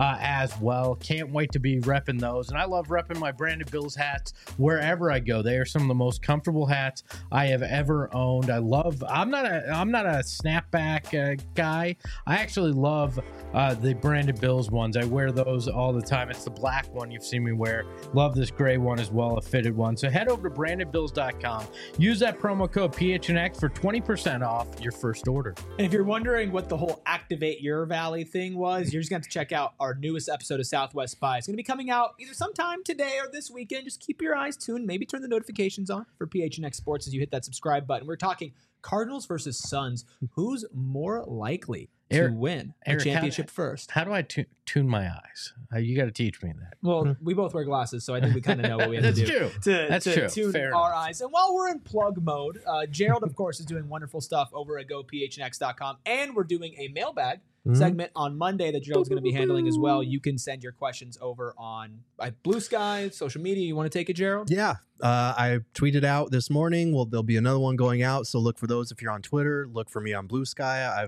as well. Can't wait to be repping those, and I love repping my Branded Bills hats wherever I go. They are some of the most comfortable hats I have ever owned. I'm not a snapback guy. I actually love the Branded Bills ones. I wear those all the time. It's the black one you've seen me wear. Love this gray one as well, a fitted one. So head over to brandedbills.com. Use that promo code PHNX for 20% off your first order. And if you're wondering what the whole Activate Your Valley thing was, you're just going to check out our newest episode of Southwest Spy. It's going to be coming out either sometime today or this weekend. Just keep your eyes tuned. Maybe turn the notifications on for PHNX Sports as you hit that subscribe button. We're talking Cardinals versus Suns. Who's more likely to win a championship first? How do I tune my eyes? You got to teach me that. Well, we both wear glasses, so I think we kind of know what we have to do to tune Fair our enough. eyes. And while we're in plug mode, Gerald, of course, is doing wonderful stuff over at GoPHNX.com, and we're doing a mailbag segment on Monday that Gerald's going to be handling as well. You can send your questions over on Blue Sky, social media. You want to take it, Gerald? Yeah. I tweeted out this morning. Well, there'll be another one going out, so look for those if you're on Twitter. Look for me on Blue Sky. I've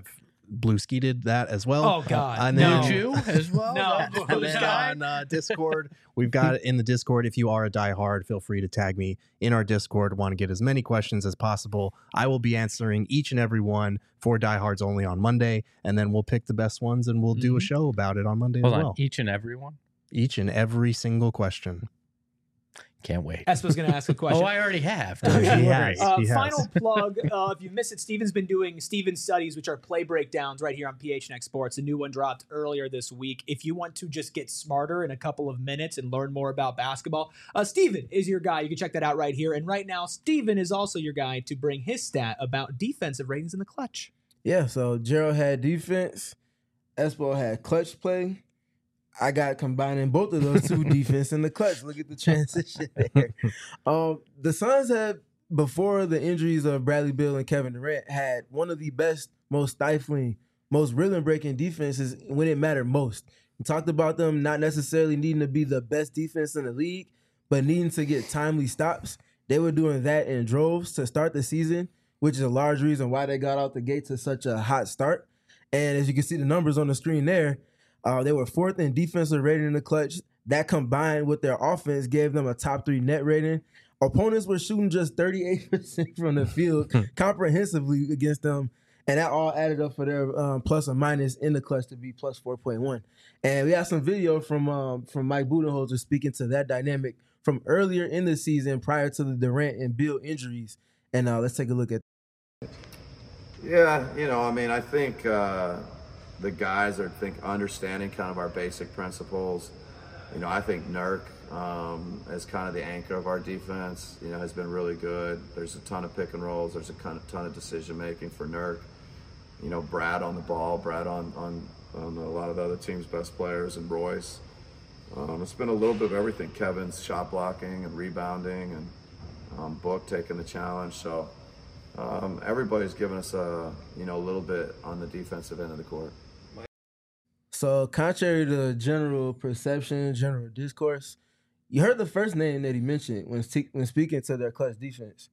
Blueski did that as well. Oh God, and no. then, You as well? No. and then on Discord, we've got it in the Discord. If you are a diehard, feel free to tag me in our Discord. Want to get as many questions as possible. I will be answering each and every one for diehards only on Monday, and then we'll pick the best ones and we'll do a show about it on Monday Hold as on, well. each and every one? Each and every single question. Can't wait. Espo's going to ask a question. Oh, I already have. He has. He has. Final plug. If you missed it, Steven's been doing Steven Studies, which are play breakdowns right here on PHNX Sports. A new one dropped earlier this week. If you want to just get smarter in a couple of minutes and learn more about basketball, Steven is your guy. You can check that out right here. And right now, Steven is also your guy to bring his stat about defensive ratings in the clutch. Yeah, so Gerald had defense. Espo had clutch play. I got combining both of those two, defense and the clutch. Look at the transition there. The Suns had, before the injuries of Bradley Beal and Kevin Durant, had one of the best, most stifling, most rhythm-breaking defenses when it mattered most. We talked about them not necessarily needing to be the best defense in the league, but needing to get timely stops. They were doing that in droves to start the season, which is a large reason why they got out the gate to such a hot start. And as you can see the numbers on the screen there, they were fourth in defensive rating in the clutch. That combined with their offense gave them a top 3 net rating. Opponents were shooting just 38% from the field comprehensively against them. And that all added up for their plus or minus in the clutch to be plus 4.1. And we have some video from Mike Budenholzer speaking to that dynamic from earlier in the season prior to the Durant and Beal injuries. And let's take a look at that. Yeah, I think the guys are understanding kind of our basic principles. I think Nurk as kind of the anchor of our defense, has been really good. There's a ton of pick and rolls. There's a ton of decision making for Nurk. Brad on the ball, Brad on a lot of the other team's best players, and Royce. It's been a little bit of everything. Kevin's shot blocking and rebounding, and Book taking the challenge. So everybody's given us a little bit on the defensive end of the court. So contrary to general perception, general discourse, you heard the first name that he mentioned when speaking to their clutch defense,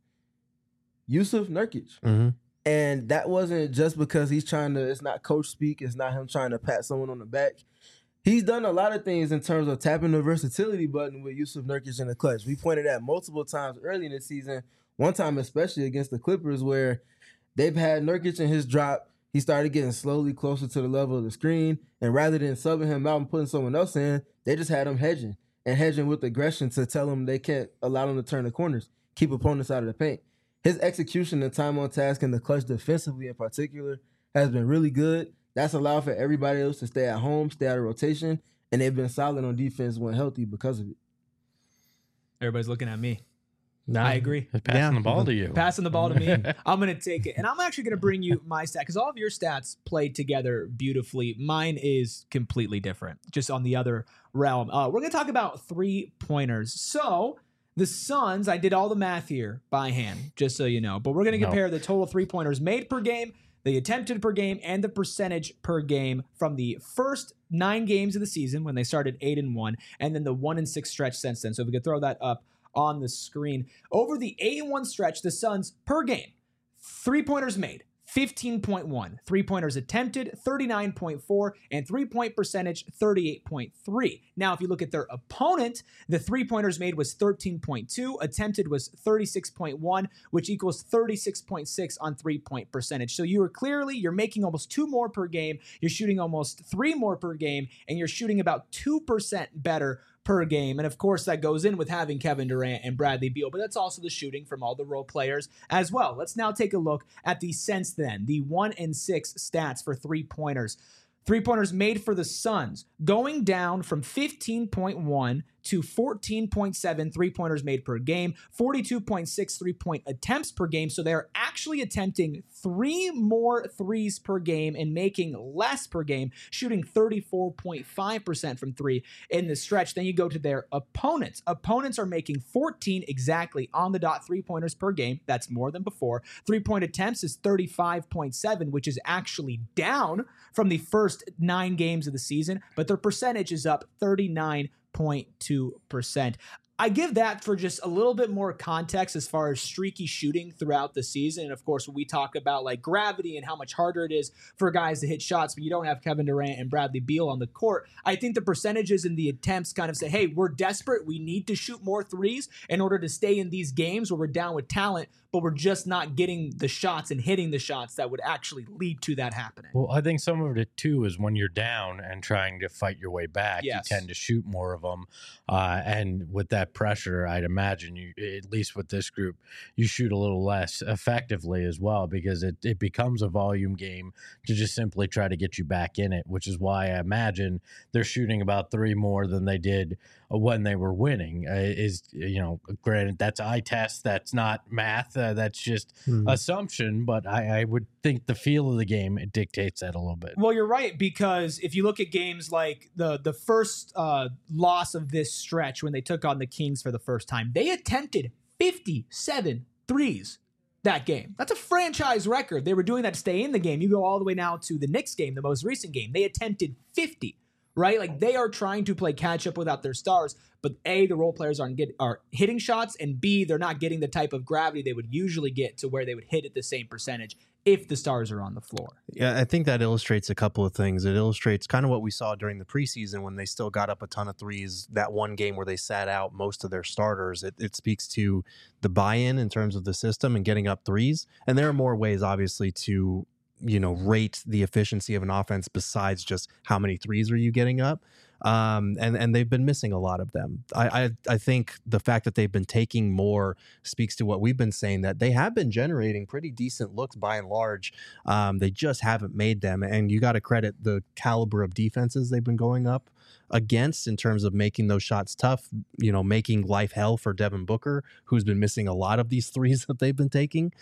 Jusuf Nurkic. Mm-hmm. And that wasn't just because he's trying to, it's not coach speak, it's not him trying to pat someone on the back. He's done a lot of things in terms of tapping the versatility button with Jusuf Nurkic in the clutch. We pointed at multiple times early in the season, one time especially against the Clippers, where they've had Nurkic in his drop. He started getting slowly closer to the level of the screen, and rather than subbing him out and putting someone else in, they just had him hedging with aggression to tell him they can't allow him to turn the corners, keep opponents out of the paint. His execution and time on task in the clutch defensively in particular has been really good. That's allowed for everybody else to stay at home, stay out of rotation, and they've been solid on defense when healthy because of it. Everybody's looking at me. No, I agree. Passing the ball to you. Passing the ball to me. I'm going to take it. And I'm actually going to bring you my stat because all of your stats played together beautifully. Mine is completely different, just on the other realm. We're going to talk about 3-pointers. So the Suns, I did all the math here by hand, just so you know. But we're going to compare the total 3-pointers made per game, the attempted per game, and the percentage per game from the first 9 games of the season when they started 8-1, and then the 1-6 stretch since then. So if we could throw that up on the screen. Over the 8-1 stretch, the Suns per game, 3-pointers made, 15.1, 3-pointers attempted, 39.4, and 3-point percentage, 38.3. Now, if you look at their opponent, the 3-pointers made was 13.2, attempted was 36.1, which equals 36.6 on 3-point percentage. So you're making almost 2 more per game, you're shooting almost 3 more per game, and you're shooting about 2% better per game. And of course, that goes in with having Kevin Durant and Bradley Beal, but that's also the shooting from all the role players as well. Let's now take a look at the since then, the 1-6 stats for 3-pointers. 3-pointers made for the Suns, going down from 15.1 to 14.7 3-pointers made per game, 42.6 3-point attempts per game. So they're actually attempting 3 more threes per game and making less per game, shooting 34.5% from 3 in the stretch. Then you go to their opponents. Opponents are making 14 exactly on the dot 3-pointers per game. That's more than before. 3-point attempts is 35.7, which is actually down from the first 9 games of the season, but their percentage is up 39.2%. I give that for just a little bit more context as far as streaky shooting throughout the season. And of course, when we talk about like gravity and how much harder it is for guys to hit shots when you don't have Kevin Durant and Bradley Beal on the court, I think the percentages and the attempts kind of say, hey, we're desperate. We need to shoot more threes in order to stay in these games where we're down with talent, but we're just not getting the shots and hitting the shots that would actually lead to that happening. Well, I think some of it too is when you're down and trying to fight your way back, yes, you tend to shoot more of them. And with that pressure, I'd imagine you, at least with this group, you shoot a little less effectively as well, because it becomes a volume game to just simply try to get you back in it, which is why I imagine they're shooting about 3 more than they did when they were winning. Granted, that's eye test, that's not math, that's just assumption, but I would think the feel of the game, it dictates that a little bit. Well, you're right, because if you look at games like the first loss of this stretch when they took on the Kings for the first time, they attempted 57 threes that game. That's a franchise record. They were doing that to stay in the game. You go all the way now to the Knicks game, the most recent game. They attempted 50, right? Like, they are trying to play catch up without their stars, but A, the role players are hitting shots, and B, they're not getting the type of gravity they would usually get to where they would hit at the same percentage if the stars are on the floor. Yeah, I think that illustrates a couple of things. It illustrates kind of what we saw during the preseason when they still got up a ton of threes. That one game where they sat out most of their starters, it speaks to the buy-in in terms of the system and getting up threes. And there are more ways, obviously, to rate the efficiency of an offense besides just how many threes are you getting up. And they've been missing a lot of them. I think the fact that they've been taking more speaks to what we've been saying, that they have been generating pretty decent looks by and large. They just haven't made them. And you got to credit the caliber of defenses they've been going up against in terms of making those shots tough, making life hell for Devin Booker, who's been missing a lot of these threes that they've been taking.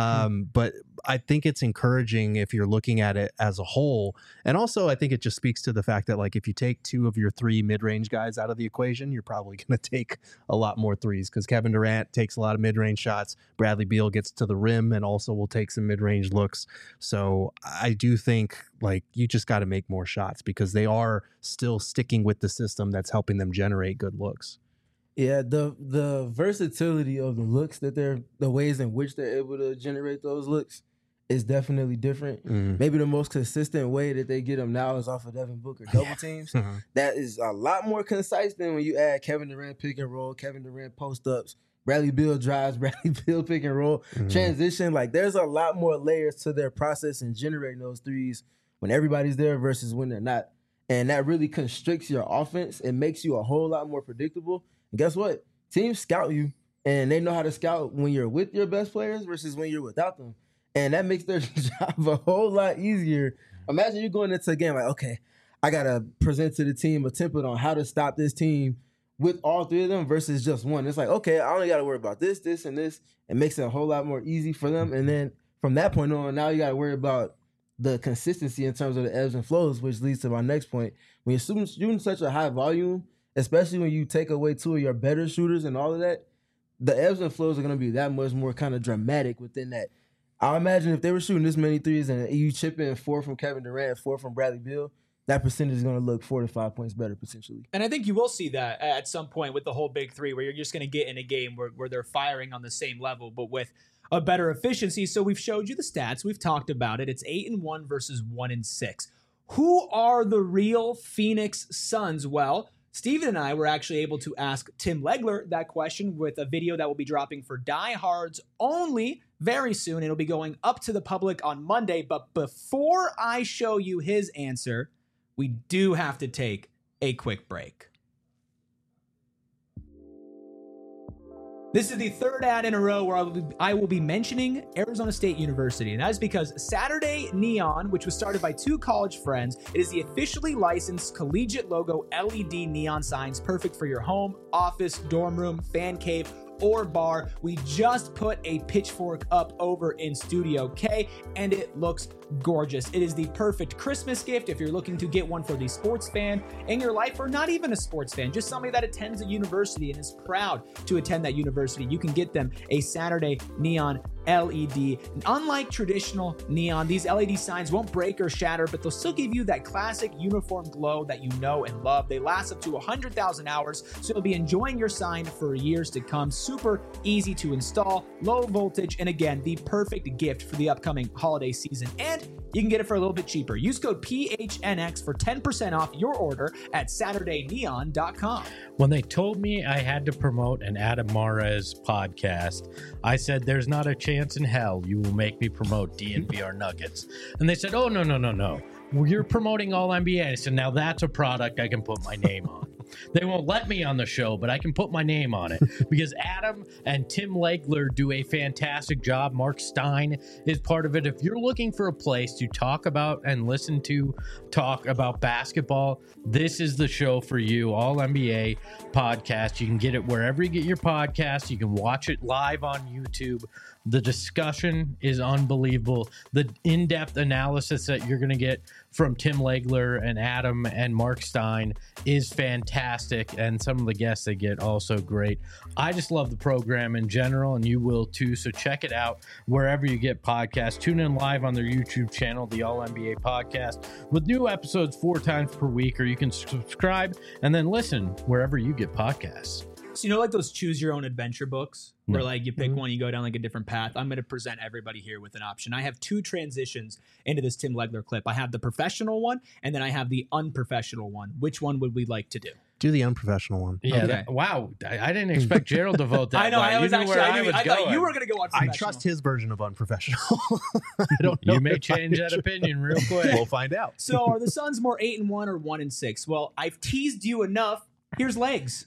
But I think it's encouraging if you're looking at it as a whole. And also, I think it just speaks to the fact that, like, if you take 2 of your 3 mid-range guys out of the equation, you're probably going to take a lot more threes, because Kevin Durant takes a lot of mid-range shots. Bradley Beal gets to the rim and also will take some mid-range looks. So I do think, like, you just got to make more shots, because they are still sticking with the system that's helping them generate good looks. Yeah, the versatility of the looks the ways in which they're able to generate those looks is definitely different. Maybe the most consistent way that they get them now is off of Devin Booker double teams. That is a lot more concise than when you add Kevin Durant pick and roll, Kevin Durant post ups, Bradley Beal drives, Bradley Beal pick and roll, transition. Like, there's a lot more layers to their process in generating those threes when everybody's there versus when they're not. And that really constricts your offense. It makes you a whole lot more predictable. And guess what? Teams scout you, and they know how to scout when you're with your best players versus when you're without them. And that makes their job a whole lot easier. Imagine you going into a game like, okay, I got to present to the team a template on how to stop this team with all 3 of them versus just one. It's like, okay, I only got to worry about this, this, and this. It makes it a whole lot more easy for them. And then from that point on, now you got to worry about the consistency in terms of the ebbs and flows, which leads to my next point. When you're shooting such a high volume, especially when you take away 2 of your better shooters and all of that, the ebbs and flows are going to be that much more kind of dramatic within that. I imagine if they were shooting this many threes and you chip in 4 from Kevin Durant, 4 from Bradley Beal, that percentage is going to look 4 to 5 points better potentially. And I think you will see that at some point with the whole big 3, where you're just going to get in a game where they're firing on the same level, but with a better efficiency. So we've showed you the stats. We've talked about it. It's 8-1 versus 1-6. Who are the real Phoenix Suns? Well, Steven and I were actually able to ask Tim Legler that question with a video that will be dropping for diehards only very soon. It'll be going up to the public on Monday. But before I show you his answer, we do have to take a quick break. This is the 3rd ad in a row where I will be mentioning Arizona State University, and that is because Saturday Neon, which was started by 2 college friends, it is the officially licensed collegiate logo LED neon signs, perfect for your home, office, dorm room, fan cave, or bar. We just put a pitchfork up over in Studio K, and it looks gorgeous. It is the perfect Christmas gift if you're looking to get one for the sports fan in your life, or not even a sports fan, just somebody that attends a university and is proud to attend that university. You can get them a Saturday Neon LED. Unlike traditional neon, these LED signs won't break or shatter, but they'll still give you that classic uniform glow that you know and love. They last up to 100,000 hours, so you'll be enjoying your sign for years to come. Super easy to install, low voltage, and again, the perfect gift for the upcoming holiday season. And you can get it for a little bit cheaper. Use code PHNX for 10% off your order at SaturdayNeon.com. When they told me I had to promote an Adam Mares podcast, I said, there's not a chance in hell you will make me promote DNVR Nuggets. And they said, oh, no. You're promoting All NBA. I said, now that's a product I can put my name on. They won't let me on the show, but I can put my name on it because Adam and Tim Legler do a fantastic job. Mark Stein is part of it. If you're looking for a place to talk about and listen to talk about basketball, this is the show for you. All NBA podcast. You can get it wherever you get your podcast. You can watch it live on YouTube. The discussion is unbelievable. The in-depth analysis that you're going to get from Tim Legler and Adam and Mark Stein is fantastic, and some of the guests they get also great. I just love the program in general, and you will too, so check it out wherever you get podcasts. Tune in live on their YouTube channel, the All NBA Podcast, with new episodes 4 times per week, or you can subscribe and then listen wherever you get podcasts. So, like those choose your own adventure books where like you pick one, you go down like a different path. I'm going to present everybody here with an option. I have 2 transitions into this Tim Legler clip. I have the professional one, and then I have the unprofessional one. Which one would we like to do? Do the unprofessional one. Yeah. Okay. Wow. I didn't expect Gerald to vote that. I know. way. I was You knew actually. where I thought going. you were going to go unprofessional. I trust his version of unprofessional. I don't know. You may if I change that should. opinion real quick. We'll find out. So, are the Suns more 8-1 or 1-6? Well, I've teased you enough. Here's legs.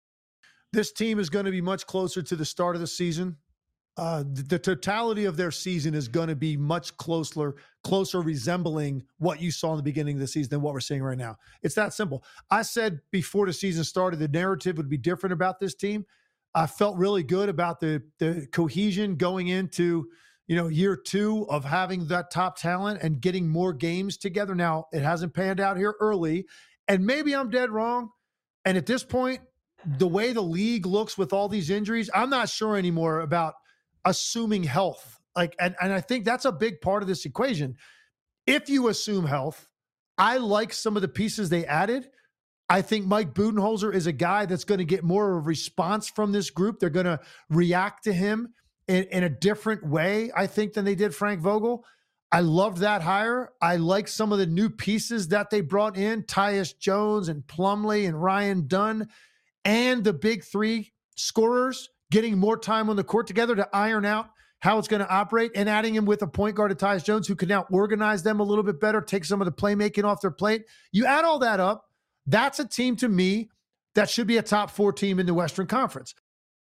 This team is going to be much closer to the start of the season. The totality of their season is going to be much closer resembling what you saw in the beginning of the season than what we're seeing right now. It's that simple. I said before the season started, the narrative would be different about this team. I felt really good about the cohesion going into, year 2 of having that top talent and getting more games together. Now, it hasn't panned out here early, and maybe I'm dead wrong. And at this point, the way the league looks with all these injuries, I'm not sure anymore about assuming health. And I think that's a big part of this equation. If you assume health, I like some of the pieces they added. I think Mike Budenholzer is a guy that's going to get more of a response from this group. They're going to react to him in a different way, I think, than they did Frank Vogel. I loved that hire. I like some of the new pieces that they brought in, Tyus Jones and Plumlee and Ryan Dunn, and the big 3 scorers getting more time on the court together to iron out how it's going to operate, and adding him with a point guard, Tyus Jones, who can now organize them a little bit better, take some of the playmaking off their plate. You add all that up, that's a team to me that should be a top 4 team in the Western Conference.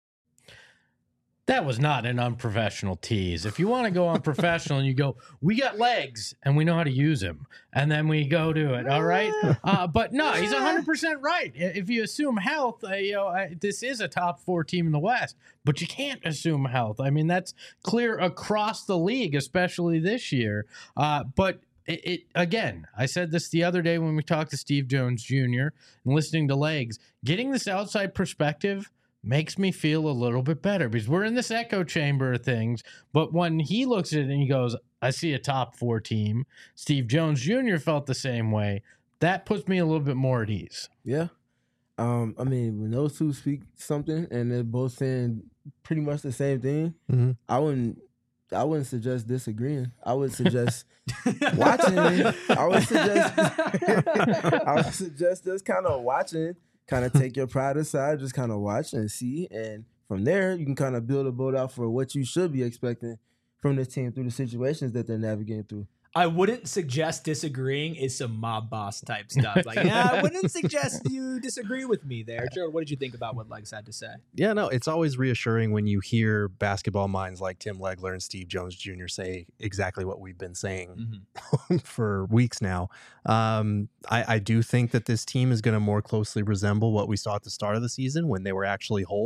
That was not an unprofessional tease. If you want to go unprofessional and you go, we got legs and we know how to use them, and then we go to it, all right? But no, he's 100% right. If you assume health, this is a top 4 team in the West, but you can't assume health. I mean, that's clear across the league, especially this year. But again, I said this the other day when we talked to Steve Jones Jr. and listening to legs, getting this outside perspective makes me feel a little bit better because we're in this echo chamber of things. But when he looks at it and he goes, I see a top 4 team, Steve Jones Jr. felt the same way. That puts me a little bit more at ease. Yeah. I mean, when those two speak something and they're both saying pretty much the same thing, I wouldn't suggest disagreeing. I would suggest watching it. I would suggest just kind of watching. Kind of take your pride aside, just kind of watch and see. And from there, you can kind of build a boat out for what you should be expecting from this team through the situations that they're navigating through. I wouldn't suggest disagreeing is some mob boss type stuff. Like, I wouldn't suggest you disagree with me there. Gerald, what did you think about what Legs had to say? Yeah, no, it's always reassuring when you hear basketball minds like Tim Legler and Steve Jones Jr. say exactly what we've been saying for weeks now. I do think that this team is going to more closely resemble what we saw at the start of the season when they were actually whole.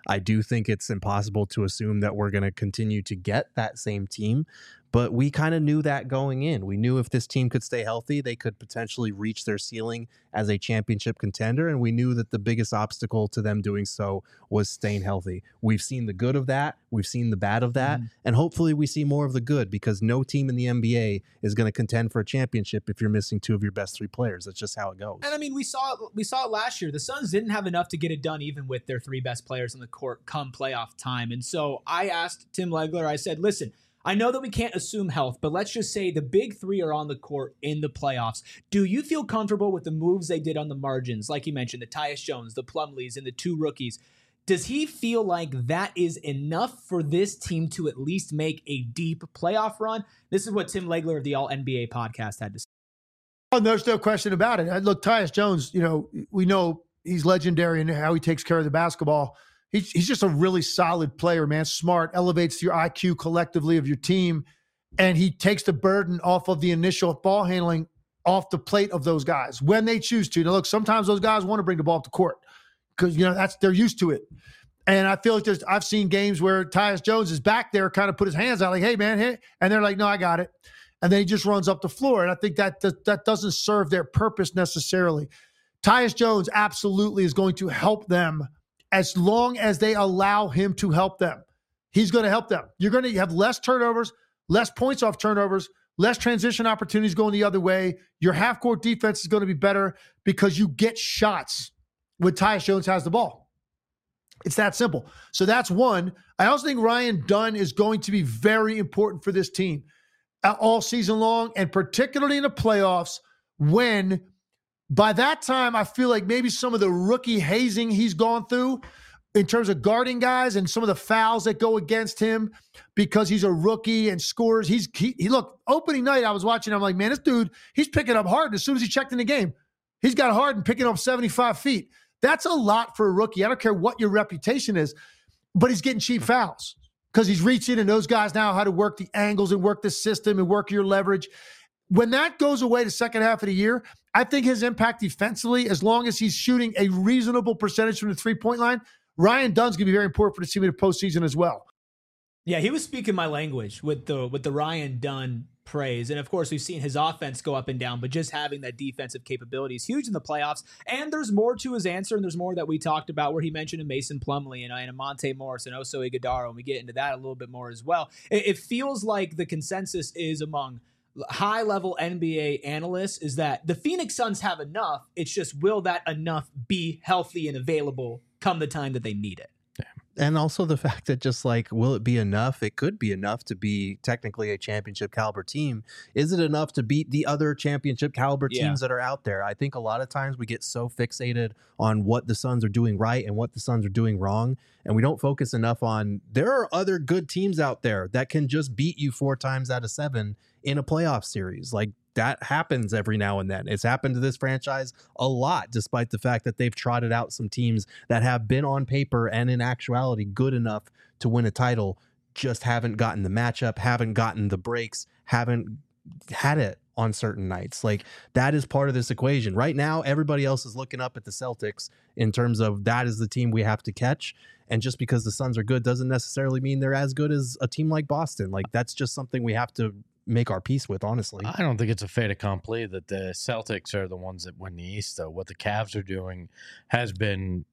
I do think it's impossible to assume that we're going to continue to get that same team. But we kind of knew that going in. We knew if this team could stay healthy, they could potentially reach their ceiling as a championship contender. And we knew that the biggest obstacle to them doing so was staying healthy. We've seen the good of that. We've seen the bad of that. And hopefully we see more of the good, because no team in the NBA is going to contend for a championship if you're missing 2 of your best 3 players. That's just how it goes. And I mean, we saw it last year. The Suns didn't have enough to get it done, even with their 3 best players on the court come playoff time. And so I asked Tim Legler, I said, listen, I know that we can't assume health, but let's just say the big 3 are on the court in the playoffs. Do you feel comfortable with the moves they did on the margins? Like you mentioned, the Tyus Jones, the Plumlees, and the 2 rookies. Does he feel like that is enough for this team to at least make a deep playoff run? This is what Tim Legler of the All-NBA podcast had to say. Oh, there's no question about it. Look, Tyus Jones, we know he's legendary in how he takes care of the basketball. He's just a really solid player, man. Smart, elevates your IQ collectively of your team, and he takes the burden off of the initial ball handling off the plate of those guys when they choose to. Now, look, sometimes those guys want to bring the ball up the court because they're used to it. And I feel like I've seen games where Tyus Jones is back there, kind of put his hands out like, "Hey, man," hey, and they're like, "No, I got it," and then he just runs up the floor. And I think that doesn't serve their purpose necessarily. Tyus Jones absolutely is going to help them. As long as they allow him to help them, he's going to help them. You're going to have less turnovers, less points off turnovers, less transition opportunities going the other way. Your half-court defense is going to be better because you get shots when Tyus Jones has the ball. It's that simple. So that's one. I also think Ryan Dunn is going to be very important for this team all season long, and particularly in the playoffs when – by that time, I feel like maybe some of the rookie hazing he's gone through in terms of guarding guys and some of the fouls that go against him because he's a rookie and scores. He look, opening night, I was watching, I'm like, man, this dude, he's picking up Harden as soon as he checked in the game. He's got Harden picking up 75 feet. That's a lot for a rookie. I don't care what your reputation is, but he's getting cheap fouls because he's reaching, and those guys now know how to work the angles and work the system and work your leverage. When that goes away the second half of the year, I think his impact defensively, as long as he's shooting a reasonable percentage from the 3-point line, Ryan Dunn's going to be very important for the team in the postseason as well. Yeah, he was speaking my language with the Ryan Dunn praise. And of course, we've seen his offense go up and down, but just having that defensive capability is huge in the playoffs. And there's more to his answer, and there's more that we talked about where he mentioned a Mason Plumlee and a Monte Morris and Oso Ighodaro, and we get into that a little bit more as well. It feels like the consensus is among high-level NBA analysts is that the Phoenix Suns have enough. It's just, will that enough be healthy and available come the time that they need it? And also the fact that just like, will it be enough? It could be enough to be technically a championship caliber team. Is it enough to beat the other championship caliber teams that are out there? I think a lot of times we get so fixated on what the Suns are doing right and what the Suns are doing wrong, and we don't focus enough on there are other good teams out there that can just beat you 4 times out of 7 in a playoff series. Like, that happens every now and then. It's happened to this franchise a lot, despite the fact that they've trotted out some teams that have been on paper and in actuality good enough to win a title, just haven't gotten the matchup, haven't gotten the breaks, haven't had it on certain nights. Like, that is part of this equation. Right now, everybody else is looking up at the Celtics in terms of that is the team we have to catch. And just because the Suns are good doesn't necessarily mean they're as good as a team like Boston. Like, that's just something we have to make our peace with, honestly. I don't think it's a fait accompli that the Celtics are the ones that win the East, though. What the Cavs are doing has been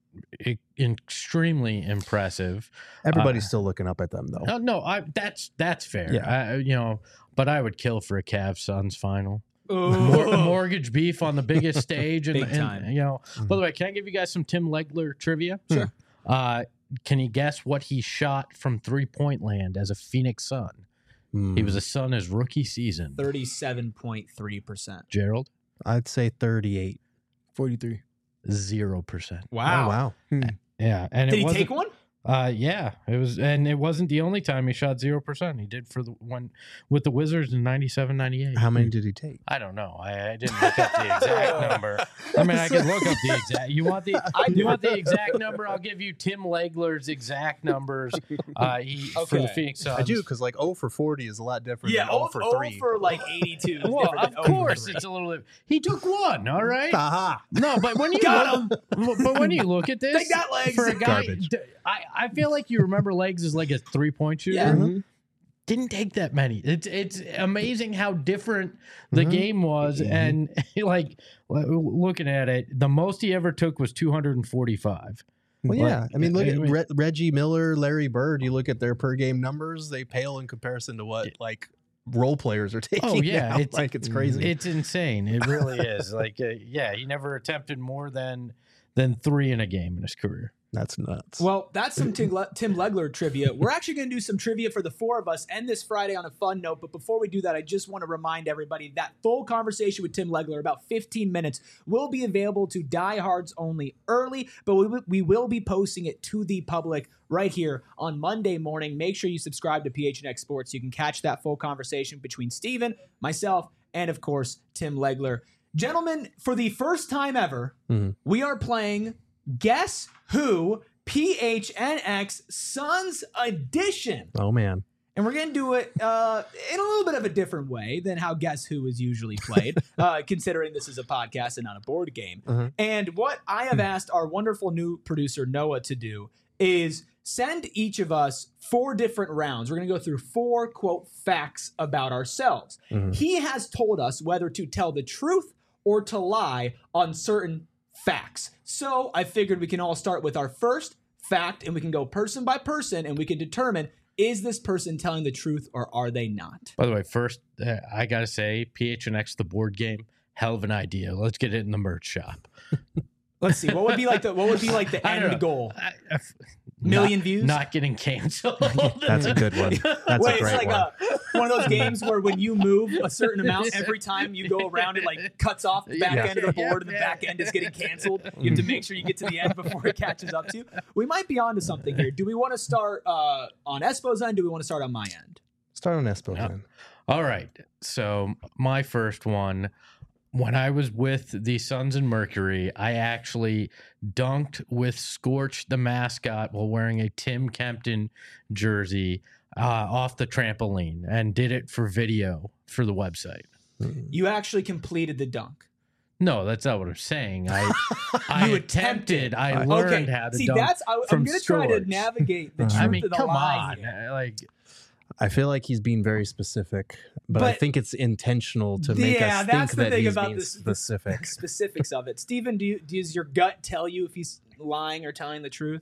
extremely impressive. Everybody's still looking up at them, though. No, that's fair. Yeah. But I would kill for a Cavs Suns final. Mortgage beef on the biggest stage, and Big time. By the way, can I give you guys some Tim Legler trivia? Sure. Can you guess what he shot from 3-point land as a Phoenix Sun? He was a Sun his rookie season. 37.3%. Gerald? I'd say 38. 43. 0%. Wow. Oh, wow. Yeah. And Did he take one? Yeah, it was, and it wasn't the only time he shot 0%. He did for the one with the Wizards in 97-98. How many did he take? I don't know. I didn't look up the exact number. I mean, I could look up the exact. You want the exact number? I'll give you Tim Legler's exact numbers. For the Phoenix Suns. I do, because like 0 for 40 is a lot different than 0 for 3. 0 for like 82 is Well, different of than 0 course, for 3. it's a little. He took one. All right. Aha. No, but when you Got but when you look at this, Take that, Legs. for a guy, Garbage. I feel like you remember Legs as like a 3-point shooter. Yeah. Didn't take that many. It's amazing how different the game was, and like looking at it, the most he ever took was 245. Well, yeah. I mean, look at Reggie Miller, Larry Bird. You look at their per game numbers; they pale in comparison to what like role players are taking. Oh yeah, now. It's crazy. It's insane. It really is. Like, yeah, he never attempted more than 3 in a game in his career. That's nuts. Well, that's some Tim Legler trivia. We're actually going to do some trivia for the 4 of us and this Friday on a fun note. But before we do that, I just want to remind everybody that full conversation with Tim Legler, about 15 minutes, will be available to diehards only early. But we will be posting it to the public right here on Monday morning. Make sure you subscribe to PHNX Sports so you can catch that full conversation between Steven, myself, and, of course, Tim Legler. Gentlemen, for the first time ever, we are playing Guess Who PHNX Suns Edition. Oh, man. And we're going to do it in a little bit of a different way than how Guess Who is usually played, considering this is a podcast and not a board game. And what I have asked our wonderful new producer, Noah, to do is send each of us 4 different rounds. We're going to go through 4, quote, facts about ourselves. He has told us whether to tell the truth or to lie on certain facts. So I figured we can all start with our first fact, and we can go person by person, and we can determine, is this person telling the truth or are they not? By the way, first, I got to say, PHNX, the board game, hell of an idea. Let's get it in the merch shop. Let's see. What would be like the end goal? Million views? Not getting canceled. That's a good one. That's a great one. One of those games where when you move a certain amount, every time you go around, it like cuts off the back end of the board, and the back end is getting canceled. You have to make sure you get to the end before it catches up to you. We might be onto something here. Do we want to start on Espo's end? Do we want to start on my end? Start on Espo's end. All right. So my first one. When I was with the Suns and Mercury, I actually dunked with Scorch, the mascot, while wearing a Tim Kempton jersey off the trampoline, and did it for video for the website. You actually completed the dunk. No, that's not what I'm saying. I attempted. I learned how to dunk. I'm going to try to navigate the truth of the lie here. Like, I feel like he's being very specific, but I think it's intentional to make us think that he's being specific. Specifics of it. Steven, does your gut tell you if he's lying or telling the truth?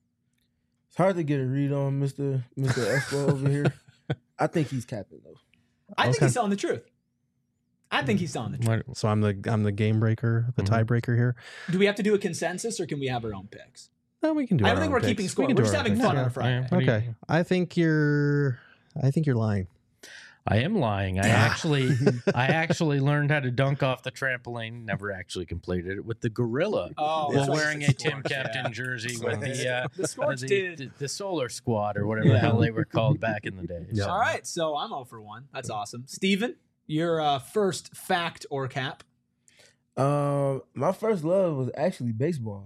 It's hard to get a read on Mr. Espo over here. I think he's capping though. I think he's telling the truth. I think he's telling the truth. So I'm the game breaker, the tiebreaker here. Do we have to do a consensus or can we have our own picks? No, we can do. I don't think we're keeping score. We're just having fun on a Friday. Okay, I think you're lying. I am lying. I actually learned how to dunk off the trampoline. Never actually completed it with the gorilla while wearing a Tim Kempton jersey with the Solar Squad or whatever the hell they were called back in the day. Yeah. All right, so I'm 0 for 1. That's awesome. Steven, your first fact or cap? My first love was actually baseball.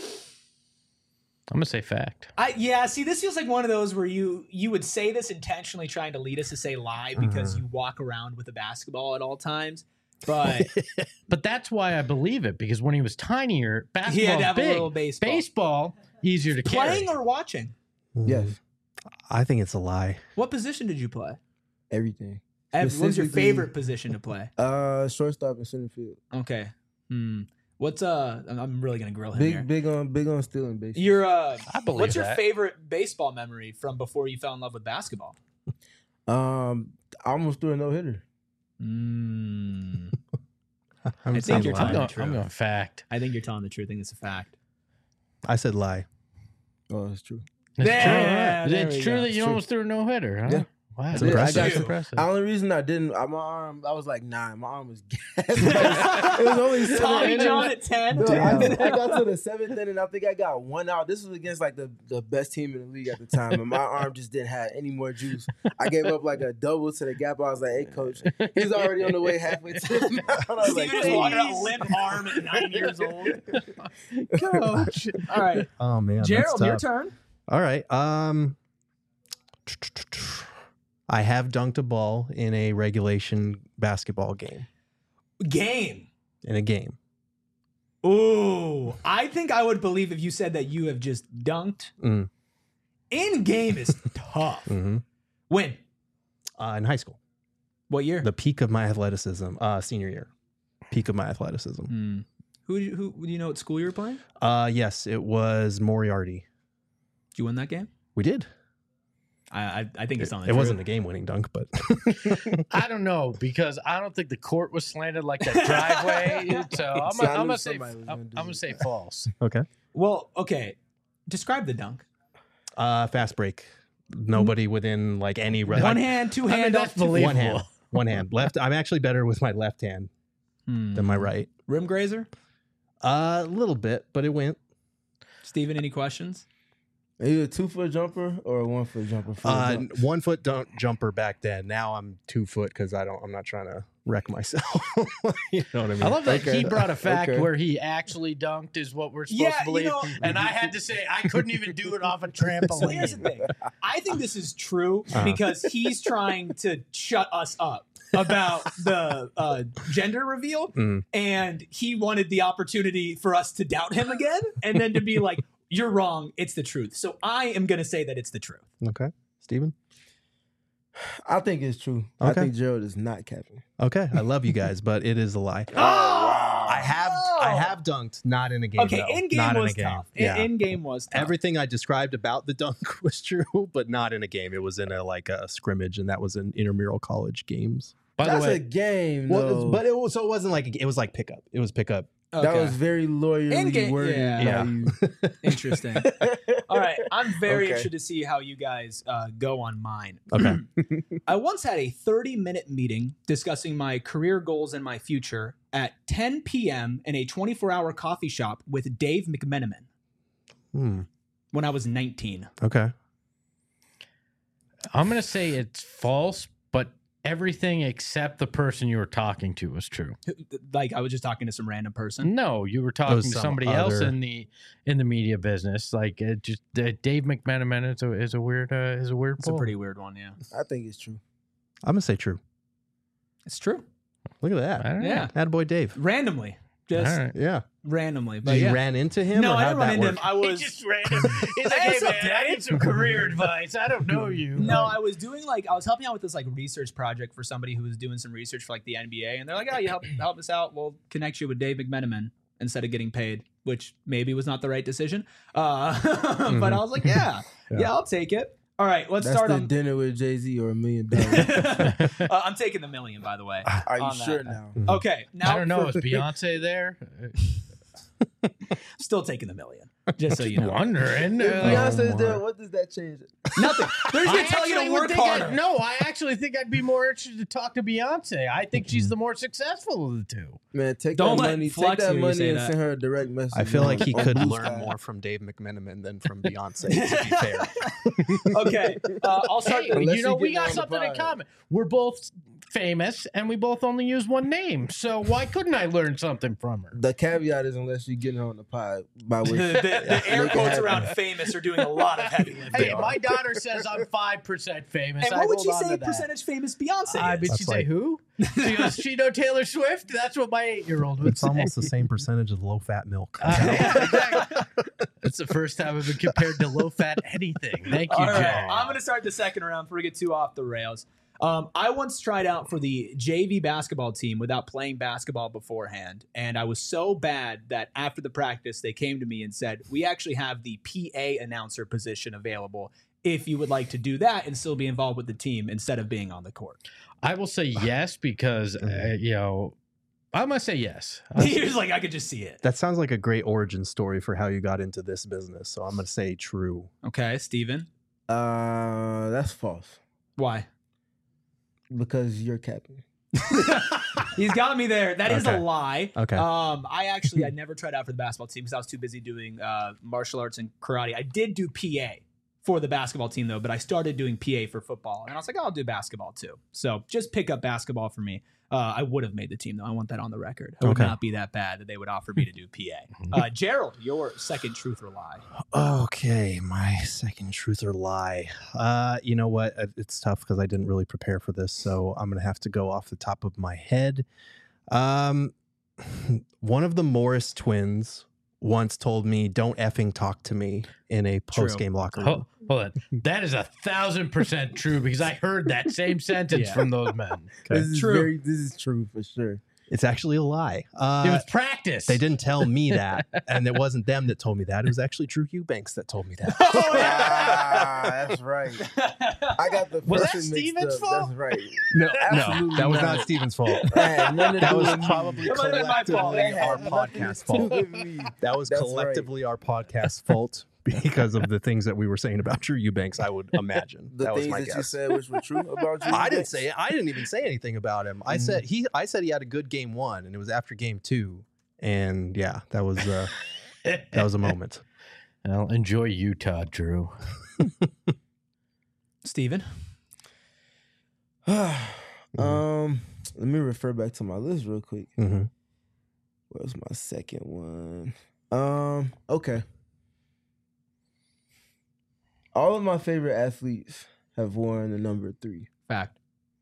I'm gonna say fact. See, this feels like one of those where you would say this intentionally trying to lead us to say lie because you walk around with a basketball at all times. But but that's why I believe it, because when he was tinier, basketball he had to have big. a little baseball. Baseball easier to Playing carry. or watching? Yes. I think it's a lie. What position did you play? Everything. What was your favorite position to play? Shortstop and center field. Okay. What's I'm really gonna grill him here. Big on stealing base. I believe what's your that. favorite baseball memory from before you fell in love with basketball? I almost threw a no-hitter. I think you're telling the truth. I'm going fact. I think you're telling the truth. I think it's a fact. I said lie. Oh, that's true. It's true that you almost threw a no-hitter, huh? Yeah. Wow, That's impressive. The only reason I didn't, my arm, I was like 9. My arm was gassed. It was only 7. Tommy John at 10. No, I got to the 7th inning. I think I got 1 out. This was against like the best team in the league at the time, and my arm just didn't have any more juice. I gave up like a double to the gap. I was like, "Hey, coach, he's already on the way halfway to the mound." I was like, Steven just walking out limp arm at 9 years old. Coach. All right. Oh man, Gerald, your turn. All right. I have dunked a ball in a regulation basketball game. In a game. Ooh, I think I would believe if you said that you have just dunked. In game is tough. Mhm. When? In high school. What year? The peak of my athleticism, senior year. Peak of my athleticism. Who do you know what school you were playing? Yes, it was Moriarty. Did you win that game? We did. I think it's on the It wasn't a game-winning dunk, but I don't know because I don't think the court was slanted like that driveway. So I'm gonna say false. okay. Well, okay. Describe the dunk. Fast break. Nobody within like any One hand, two hand, that's up, two- One hand. One hand. Left. I'm actually better with my left hand than my right. Rim grazer. A little bit, but it went. Steven, any questions? Are you a 2-foot jumper or a 1-foot jumper? For the dunk? 1 foot jumper back then. Now I'm 2 foot because I'm not trying to wreck myself. You know what I mean? I love that he brought a fact Okay. where he actually dunked is what we're supposed to believe. And I had to say I couldn't even do it off a trampoline. So here's the thing. I think this is true because he's trying to shut us up about the gender reveal, and he wanted the opportunity for us to doubt him again, and then to be like, "You're wrong. It's the truth." So I am going to say that it's the truth. Okay. Steven? I think it's true. Okay. I think Gerald is not capping. Okay. I love you guys, but it is a lie. I have dunked, not in a game. Okay, though. in game Not was in a game. tough. Yeah. In game was tough. Everything I described about the dunk was true, but not in a game. It was in a scrimmage, and that was in intramural college games. By That's the way, a game, Well, though. but it wasn't like it was like pickup. It was pickup. Okay. That was very lawyerly In-game- worded. yeah. by you. Interesting. All right, I'm very Okay. interested to see how you guys go on mine. Okay. I once had a 30-minute meeting discussing my career goals and my future at 10 p.m. in a 24-hour coffee shop with Dave McMenamin when I was 19. Okay. I'm going to say it's false, but everything except the person you were talking to was true. Like I was just talking to some random person. No, you were talking to some somebody else other- in the media business. Like Dave McMenamin is a weird It's a pull. pretty weird one, yeah. I think it's true. I'm gonna say true. It's true. Look at that. I don't know. Yeah. Attaboy Dave. Randomly. Just All right. Yeah. randomly. But Did you yeah. ran into him? No, or I how'd didn't run that into work? him. I was random. He's like, hey, man, I need some career advice. I don't know you. No, I was doing I was helping out with this research project for somebody who was doing some research for the NBA, and they're like, "Oh, you help us out. We'll connect you with Dave McMenamin instead of getting paid," which maybe was not the right decision. But I was like, "Yeah, I'll take it." All right, let's That's start the on. dinner with Jay-Z or $1 million. I'm taking the million, by the way. Are you on that. sure now? Okay, now I don't know. Is Beyonce there? still taking the million, just so you know. Wondering. If Beyonce's my. there, what does that change? Nothing. They're just gonna tell you to work harder. No, I actually think I'd be more interested to talk to Beyonce. I think she's the more successful of the two. Man, take Don't that let money, Flex take that hear you money say and that. send her a direct message. I feel like he on could Blue learn Sky. more from Dave McMenamin than from Beyonce, to be fair. Okay, I'll start. Hey, Unless you know, you we get got on the something in pod. common. We're both famous, and we both only use one name. So why couldn't I learn something from her? The caveat is unless you get her on the pod, by which the air Make it quotes happen. around famous are doing a lot of heavy lifting. Hey, my daughter says I'm 5% famous. And I what would hold she on say to that. percentage famous Beyonce I is? bet That's she say like- who? She goes, she know Taylor Swift? That's what my 8-year-old would It's say. almost the same percentage of low-fat milk. Yeah, exactly. That's the first time I've been compared to low-fat anything. Thank you, All right, Jay. I'm going to start the second round before we get too off the rails. I once tried out for the JV basketball team without playing basketball beforehand, and I was so bad that after the practice, they came to me and said, "We actually have the PA announcer position available if you would like to do that and still be involved with the team instead of being on the court." I will say yes because, I'm going to say yes. He was like, "I could just see it." That sounds like a great origin story for how you got into this business. So I'm going to say true. Okay, Steven. that's false Why? because you're capping. He's got me there. That is Okay. a lie. Okay. I never tried out for the basketball team because I was too busy doing martial arts and karate. I did do PA for the basketball team though, but I started doing PA for football, and I was like, I'll do basketball too. So just pick up basketball for me. I would have made the team though. I want that on the record. It would Okay. not be that bad that they would offer me to do PA. Gerald, your second truth or lie? Okay, my second truth or lie. You know what? It's tough because I didn't really prepare for this, so I'm gonna have to go off the top of my head. One of the Morris twins once told me, "Don't effing talk to me" in a post-game locker room. Hold on. That is 1,000% true because I heard that same sentence from those men. This is this is true for sure. It's actually a lie. It was practice. They didn't tell me that, and it wasn't them that told me that. It was actually Drew Eubanks that told me that. Oh, yeah. That's right. I got the Was that person mixed Steven's up. fault? That's right. No, Absolutely that was not. not Steven's fault. That That was probably That might have been my fault. collectively our podcast fault. That was That's collectively our podcast fault because of the things that we were saying about Drew Eubanks, I would imagine. The that was things my that guess. you said which were true about you. I didn't say it. I didn't even say anything about him. I said he had a good game 1, and it was after game 2. And yeah, that was a moment. Well, enjoy Utah, Drew. Steven? Let me refer back to my list real quick. Mm-hmm. Where's my second one? Okay. All of my favorite athletes have worn the number 3. Fact.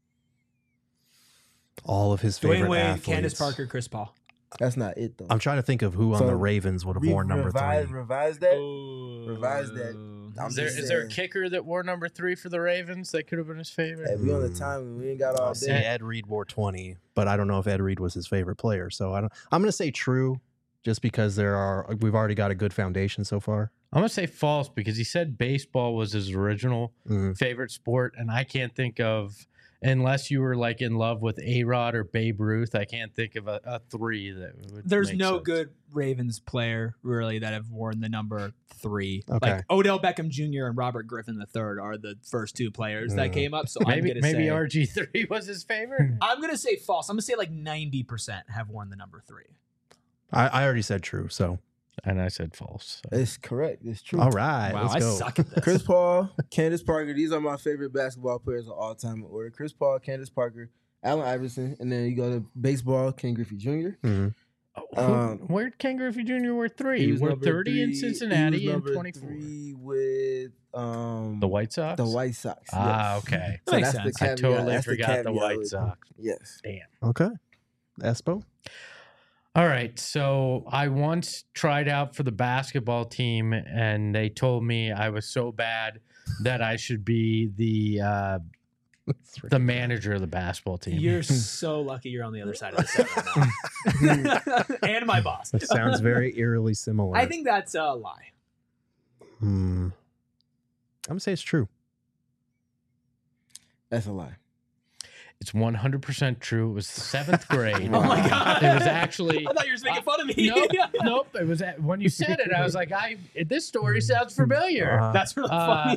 All of his favorite Dwayne Wade, athletes. Candace Parker, Chris Paul. That's not it though. I'm trying to think of who on So, the Ravens would have worn number 3. Revise that. Revise that. I'm Is just there a saying. kicker that wore number 3 for the Ravens that could have been his favorite? Hey, we on the time. We ain't got all I'll say day. Ed Reed wore 20, but I don't know if Ed Reed was his favorite player. So I'm going to say true, just because we've already got a good foundation so far. I'm going to say false because he said baseball was his original favorite sport, and I can't think of, unless you were like in love with A-Rod or Babe Ruth, I can't think of a 3 that would There's make no sense. good Ravens player really that have worn the number 3. Okay. Like Odell Beckham Jr. and Robert Griffin III are the first 2 players that came up. So Maybe I'm gonna say RG3 was his favorite. I'm gonna say false. I'm gonna say like 90% have worn the number 3. I already said true, so. And I said false. So. It's correct. It's true. All right, Wow, let's I go. suck at this. Chris Paul, Candace Parker. These are my favorite basketball players of all time in order. Chris Paul, Candace Parker, Allen Iverson, and then you go to baseball, Ken Griffey Jr. Where'd Ken Griffey Jr. wear 3? He He was wore number 30 in 3. Cincinnati He was and number 24. 3 with The White Sox? The White Sox. Ah, yes. okay. So Makes that's the sense. I caveat. totally That's forgot the caveat White with it. Sox. Yes. Damn. Okay. Espo? All right. So I once tried out for the basketball team, and they told me I was so bad that I should be the manager of the basketball team. You're so lucky you're on the other side of the set right now. And my boss. That sounds very eerily similar. I think that's a lie. I'm going to say it's true. That's a lie. It's 100% true. It was 7th grade. Oh my God. It was actually. I thought you were just making fun of me. Nope. It was when you said it. I was like, this story sounds familiar. That's really funny.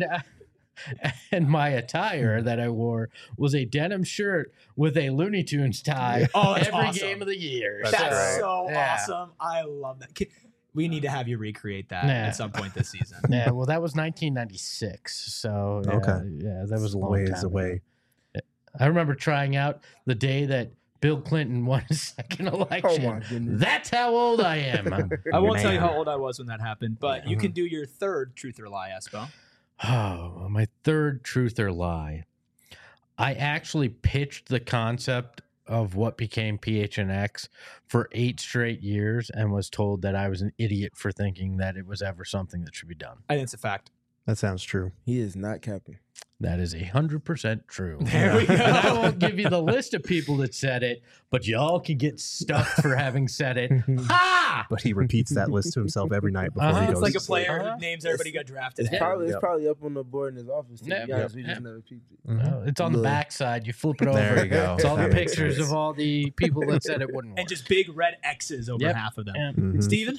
And my attire that I wore was a denim shirt with a Looney Tunes tie that's every awesome. game of the year. That's so yeah. awesome. I love that. We need to have you recreate that Nah. at some point this season. Yeah, well, that was 1996. So Okay. yeah, that was a long Ways time away. ago. I remember trying out the day that Bill Clinton won his second election. Oh my goodness. That's how old I am. I won't tell you Man. how old I was when that happened, but you can do your third truth or lie, Espo. Oh, my third truth or lie. I actually pitched the concept of what became PHNX for 8 straight years and was told that I was an idiot for thinking that it was ever something that should be done. I think it's a fact. That sounds true. He is not capping. That is 100% true. There we go. And I won't give you the list of people that said it, but y'all can get stuffed for having said it. Ha! But he repeats that list to himself every night before he It's goes like a to player Uh-huh. who names everybody got drafted. It's probably up on the board in his office. To Yep, be honest, we yep. just never peeped it. Well, it's on the Look. backside. You flip it over. There you go. It's all the That makes pictures sense. of all the people that said it wouldn't work. And just big red X's over Yep. half of them. Yeah. Mhm. Steven?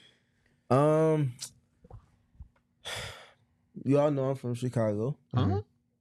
You all know I'm from Chicago. Huh?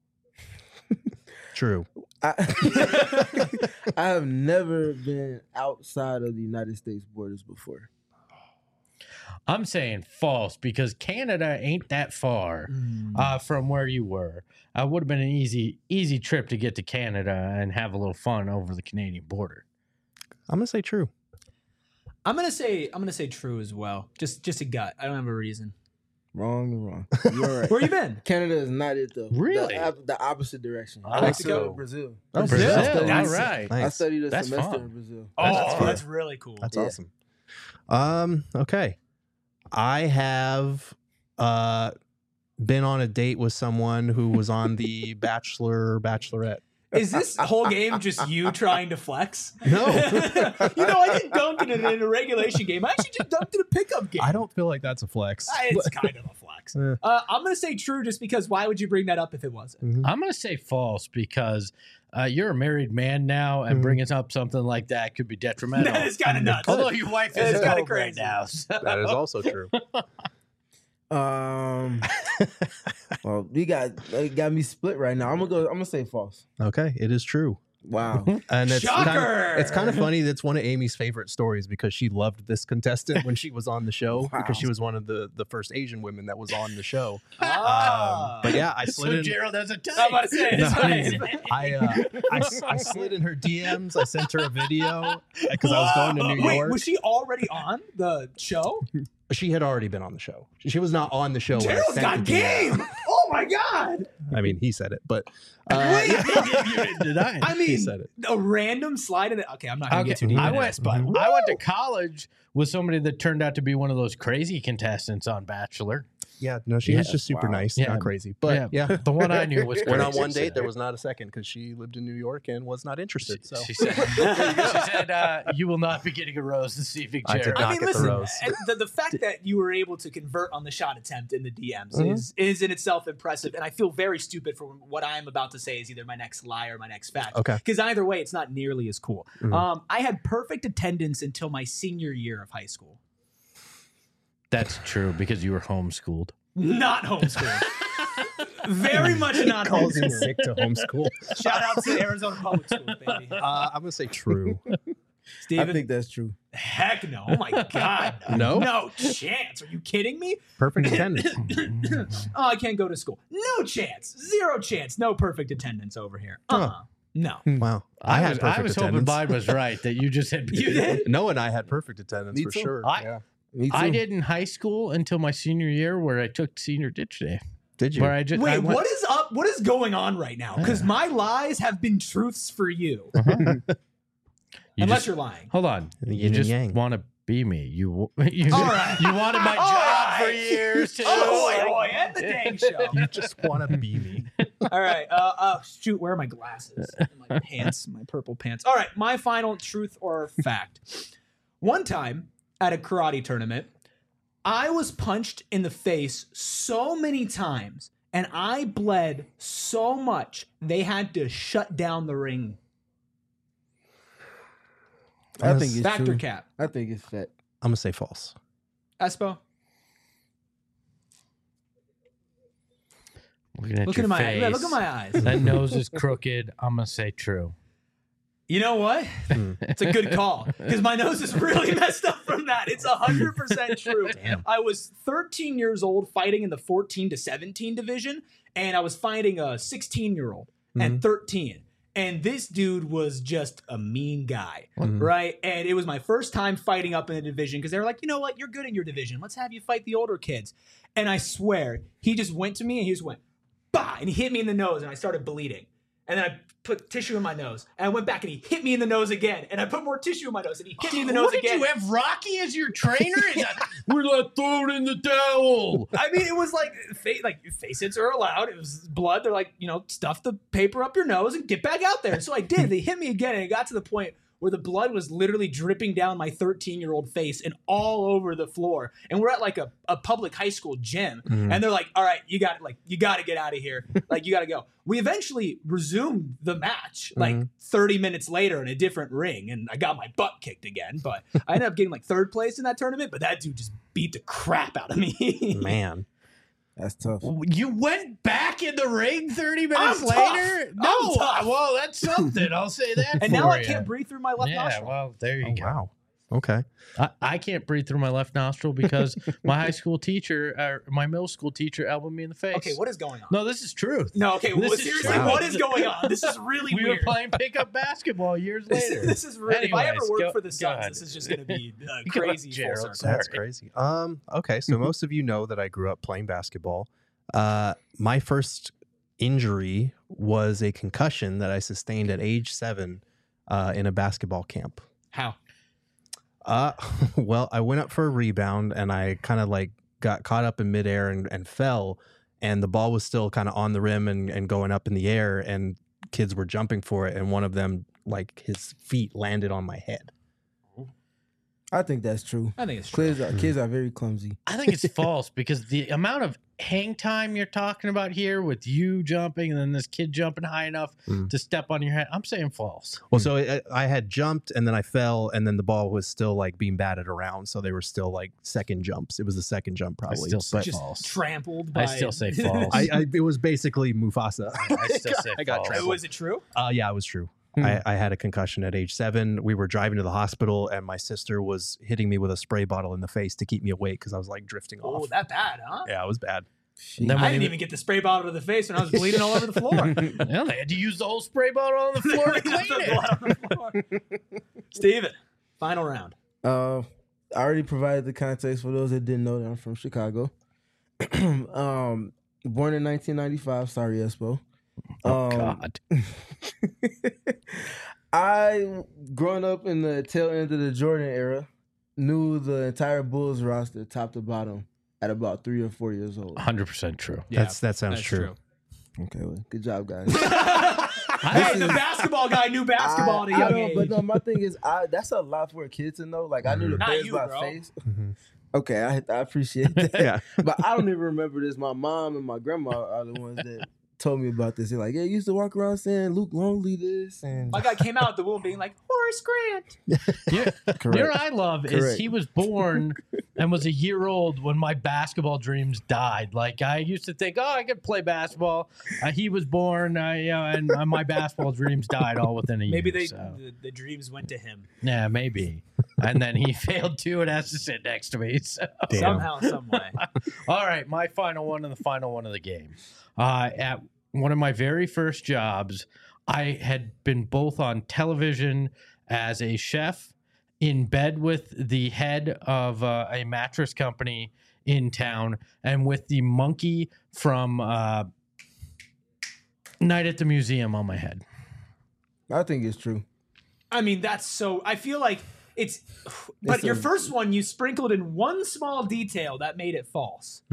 True. I have never been outside of the United States borders before. I'm saying false because Canada ain't that far from where you were. Would have been an easy trip to get to Canada and have a little fun over the Canadian border. I'm going to say true. I'm gonna say true as well. Just a gut. I don't have a reason. Wrong and wrong. You're right. Where you been? Canada is not it though. Really? The opposite direction. Oh. Mexico, Brazil. Oh, Brazil. Brazil. All That's- right. I Nice. studied a That's semester fun. in Brazil. Oh, That's that's, fun. really cool. That's Yeah. awesome. Okay. I have been on a date with someone who was on the Bachelorette. Is this whole game just you trying to flex? No. I didn't dunk it in a regulation game. I actually just dunked in a pickup game. I don't feel like that's a flex. It's kind of a flex. I'm going to say true just because why would you bring that up if it wasn't? Mm-hmm. I'm going to say false because you're a married man now, and bringing up something like that could be detrimental. That is kind of nuts. Although your wife That is is kind kinda of great crazy. now. So. That is also true. Well, you got me split right now. I'm gonna say false. Okay, it is true. Wow. And it's Shocker! kind of funny. That's one of Amy's favorite stories because she loved this contestant when she was on the show because she was one of the first Asian women that was on the show. But yeah, I slid So in. Gerald has a type. I'm about to say, No, it's fine. I slid in her DMs. I sent her a video because I was going to New York. Wait, was she already on the show? She had already been on the show. She was not on the show. when I Gerald's sent got the DM. game. Oh my god! I mean, he said it, but Wait, You didn't deny it. I he mean, said it. a random slide in it. Okay, I'm not gonna get too Okay, deep I into went, this, but I went to college with somebody that turned out to be one of those crazy contestants on Bachelor. Yeah, no, she was just super nice, Yeah. not crazy. But yeah. The one I knew was crazy. Went on one date. There was not a second because she lived in New York and was not interested. So She said, you will not be getting a rose this evening, I did Jared. not. I mean, get the listen, rose. the fact that you were able to convert on the shot attempt in the DMs is in itself impressive, and I feel very stupid for what I am about to say is either my next lie or my next fact. Okay. Because either way, it's not nearly as cool. I had perfect attendance until my senior year of high school. That's true because you were homeschooled. Not homeschooled. Very much not calls in homeschooled. sick to homeschool. Shout out to Arizona Public Schools, baby. I'm gonna say true. Steven, I think that's true. heck no. Oh my God. No? No chance. Are you kidding me? Perfect attendance. Oh, I can't go to school. No chance. Zero chance. No perfect attendance over here. No. Wow. I had was perfect hoping attendance. mine was right that you just had. You did? No, and I had perfect attendance Me for too. sure. I- Me too. I did in high school until my senior year, where I took senior ditch day. Did you? Where I just I Wait, went- what is up? What is going on right now? Because my lies have been truths for you. You Unless just- you're lying. Hold on, Yin you and just yang. want to be me. You All right. you wanted my All job for right. years too. Oh, boy, end the dang show. You just want to be me. All right. Shoot, where are my glasses? My pants, my purple pants. All right, my final truth or fact. One time at a karate tournament, I was punched in the face so many times and I bled so much they had to shut down the ring. I think it's Fact or true. cap? I think it's fact. I'm gonna say false. Espo? Looking at Look your at my face. yeah, look at my eyes. That nose is crooked. I'm gonna say true. You know what? It's a good call because my nose is really messed up from that. It's 100% true. I was 13 years old fighting in the 14 to 17 division, and I was fighting a 16-year-old and 13. And this dude was just a mean guy, right? And it was my first time fighting up in the division because they were like, you know what? You're good in your division. Let's have you fight the older kids. And I swear, he just went to me and he just went, bah! And he hit me in the nose and I started bleeding. And then I put tissue in my nose. And I went back and he hit me in the nose again. And I put more tissue in my nose and he hit me in the nose What, again. did you have Rocky as your trainer? We're not throwing in the towel. I mean, it was like face hits are allowed. It was blood. They're like, stuff the paper up your nose and get back out there. So I did. They hit me again, and it got to the point where the blood was literally dripping down my 13-year-old face and all over the floor. And we're at like a public high school gym, and they're like, "All right, you got to get out of here. Like, you got to go." We eventually resumed the match like 30 minutes later in a different ring, and I got my butt kicked again. But I ended up getting like third place in that tournament. But that dude just beat the crap out of me. Man. That's tough. You went back in the ring 30 minutes I'm later? tough. No, I'm tough. well, that's something. I'll say that. And for now I you. can't breathe through my left Yeah, nostril. well, there you Oh, go. wow. Okay. I can't breathe through my left nostril because my high school teacher, or my middle school teacher, elbowed me in the face. Okay, what is going on? No, this is truth. No, okay, well, This is seriously, true. what is going on? This is really We were weird. playing pickup basketball years later. This is really. If I ever Anyways, work go- for the go Suns, ahead. this is just going to be Go crazy. ahead, Gerald. Full circle. That's crazy. Okay, so most of you know that I grew up playing basketball. My first injury was a concussion that I sustained at age 7 in a basketball camp. How? Well, I went up for a rebound and I kind of like got caught up in midair and fell, and the ball was still kind of on the rim and going up in the air, and kids were jumping for it, and one of them, like, his feet landed on my head. I think that's true. I think it's true. Kids are very clumsy. I think it's false because the amount of hang time you're talking about here with you jumping and then this kid jumping high enough to step on your head, I'm saying false. Well, so I had jumped and then I fell, and then the ball was still like being batted around, so they were still like second jumps. It was the second jump probably. I still say Just false. trampled by I still say false. It was basically Mufasa. I still say I got false. trampled. Was it true? Yeah, it was true. I had a concussion at age 7. We were driving to the hospital, and my sister was hitting me with a spray bottle in the face to keep me awake because I was like drifting Oh, off. that bad, huh? Yeah, it was bad. Then I didn't even get the spray bottle to the face when I was bleeding all over the floor. Yeah, they had to use the whole spray bottle on the floor to clean The it. blood on the floor. Steven, final round. I already provided the context for those that didn't know that I'm from Chicago. Born in 1995. Sorry, Espo. God. I, growing up in the tail end of the Jordan era, knew the entire Bulls roster top to bottom at about 3 or 4 years old. 100% true. That sounds true. Okay, well, good job, guys. Hey, the basketball guy knew basketball at a young age. But no, my thing is, that's a lot for a kid to know. Like, I knew the Not Bears you, by bro. face. Okay, I appreciate that. Yeah. But I don't even remember this. My mom and my grandma are the ones that told me about this. They're like, yeah, you used to walk around saying Luke Longley this. And My guy came out of the womb being like, Horace Grant. You Correct. know what I love is Correct. he was born and was a year old when my basketball dreams died. Like, I used to think, oh, I could play basketball. He was born, and my basketball dreams died all within a year. Maybe the dreams went to him. Yeah, maybe. And then he failed too and has to sit next to me. So. Somehow, some way. All right, my final one and the final one of the game. At one of my very first jobs, I had been both on television as a chef, in bed with the head of a mattress company in town, and with the monkey from Night at the Museum on my head. I think it's true. I mean, that's so. I feel like it's. But your first one, you sprinkled in one small detail that made it false.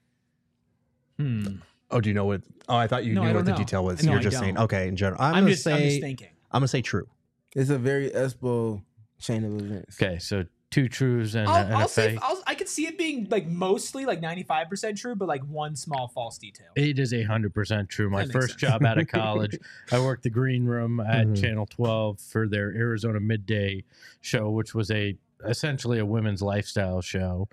Oh, do you know what? Oh, I thought you No, I knew don't what the know. detail was. No, You're I just saying, don't. okay, in general. I'm I'm gonna just thinking. I'm gonna say true. It's a very Espo chain of events. Okay, so 2 truths and I'll a say fake. I could see it being like mostly like 95% true, but like one small false detail. It is 100% true. My That makes first sense. job out of college, I worked the green room at Channel 12 for their Arizona Midday show, which was essentially a women's lifestyle show.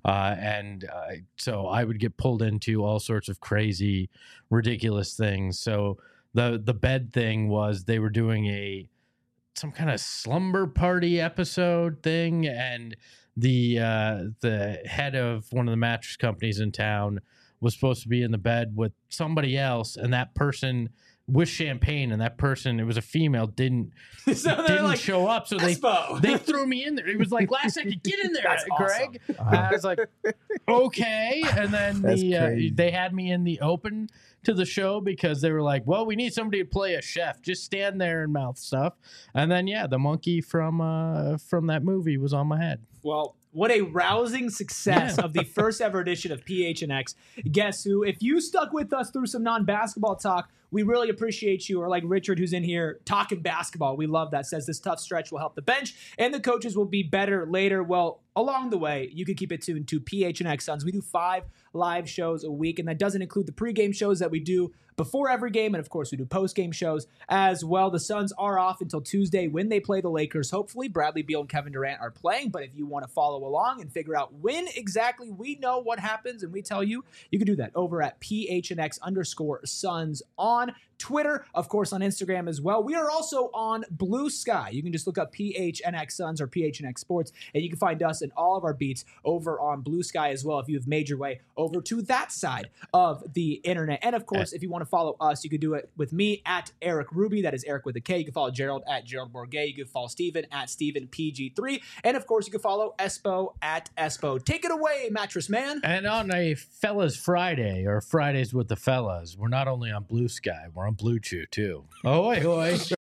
So I would get pulled into all sorts of crazy, ridiculous things. So the bed thing was they were doing some kind of slumber party episode thing, and the head of one of the mattress companies in town was supposed to be in the bed with somebody else, and that person with champagne, and that person, it was a female, didn't like, show up, so Espo. they threw me in there. It was like, last second, get in there, That's Greg. I was like, okay, and then they had me in the open to the show because they were like, well, we need somebody to play a chef, just stand there and mouth stuff. And then the monkey from that movie was on my head. Well, what a rousing success of the first ever edition of PHNX. Guess who? If you stuck with us through some non-basketball talk, we really appreciate you. Or like Richard, who's in here talking basketball. We love that. Says this tough stretch will help the bench and the coaches will be better later. Well, along the way, you can keep it tuned to PHNX Suns. We do 5 live shows a week, and that doesn't include the pregame shows that we do before every game, and of course we do post-game shows as well. The Suns are off until Tuesday when they play the Lakers. Hopefully Bradley Beal and Kevin Durant are playing, but if you want to follow along and figure out when exactly we know what happens and we tell you, you can do that over at PHNX_Suns on Twitter, of course on Instagram as well. We are also on Blue Sky. You can just look up PHNX Suns or PHNX Sports, and you can find us and all of our beats over on Blue Sky as well if you've made your way over to that side of the internet. And of course, if you want to follow us, you can do it with me at Eric Ruby. That is Eric with a K. You can follow Gerald at Gerald Bourget. You can follow Steven at StevenPG3. And of course, you can follow Espo at Espo. Take it away, Mattress Man. And on a Fellas Friday, or Fridays with the Fellas, we're not only on Blue Sky, we're on Blue Chew too. Ahoy, hoy.